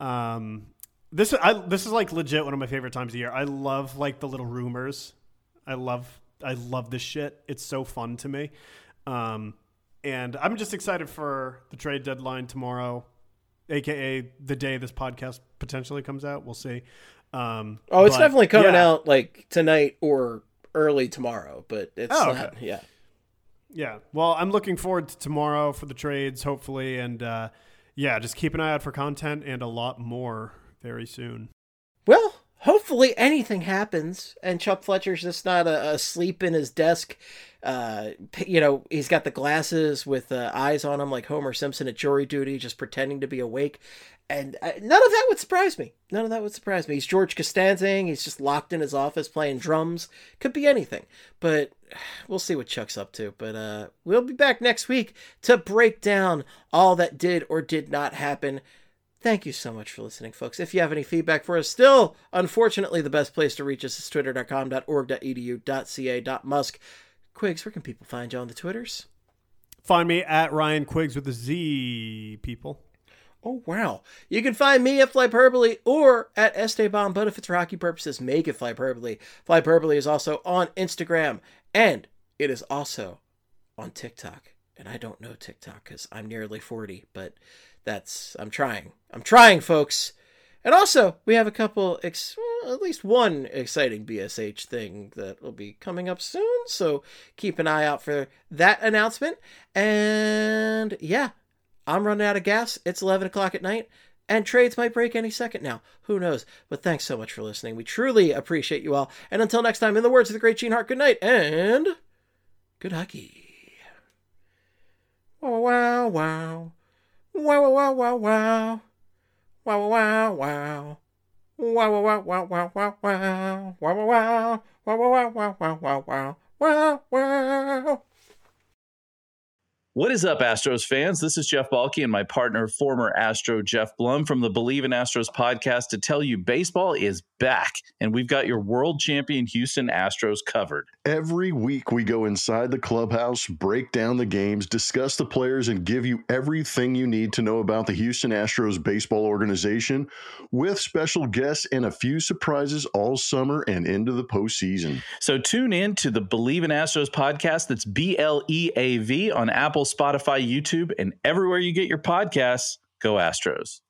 This is like legit one of my favorite times of year. I love like the little rumors. I love this shit. It's so fun to me. And I'm just excited for the trade deadline tomorrow, aka the day this podcast potentially comes out. We'll see. It's definitely coming out like tonight or early tomorrow, but it's not. Okay. Yeah. Yeah. Well, I'm looking forward to tomorrow for the trades, hopefully. And just keep an eye out for content and a lot more very soon. Well, hopefully anything happens and Chuck Fletcher's just not asleep in his desk. He's got the glasses with eyes on him like Homer Simpson at jury duty, just pretending to be awake. And none of that would surprise me. He's George Costanzing. He's just locked in his office playing drums. Could be anything. But we'll see what Chuck's up to. But we'll be back next week to break down all that did or did not happen. Thank you so much for listening, folks. If you have any feedback for us, still, unfortunately, the best place to reach us is twitter.com.org.edu.ca.musk. Quiggs, where can people find you on the Twitters? Find me at Ryan Quiggs with a Z, people. Oh, wow. You can find me at Flyperbole or at Esteban, but if it's for hockey purposes, make it Flyperbole. Flyperbole is also on Instagram, and it is also on TikTok. And I don't know TikTok because I'm nearly 40, but I'm trying, folks. And also, we have a couple, at least one exciting BSH thing that will be coming up soon. So keep an eye out for that announcement. And yeah, I'm running out of gas. It's 11 o'clock at night. And trades might break any second now. Who knows? But thanks so much for listening. We truly appreciate you all. And until next time, in the words of the great Gene Hart, good night and good hockey. Wow, wow, wow. Wow, wow, wow, wow. Wow, wow, wow. Wow, wow, wow, wow, wow, wow. Wow, wow, wow. Wow, wow, wow, wow, wow, wow. Wow, wow. What is up, Astros fans? This is Jeff Balke and my partner, former Astro Jeff Blum from the Believe in Astros podcast to tell you baseball is back, and we've got your world champion Houston Astros covered. Every week we go inside the clubhouse, break down the games, discuss the players, and give you everything you need to know about the Houston Astros baseball organization with special guests and a few surprises all summer and into the postseason. So tune in to the Believe in Astros podcast. That's BLEAV on Apple, Spotify, YouTube, and everywhere you get your podcasts. Go Astros.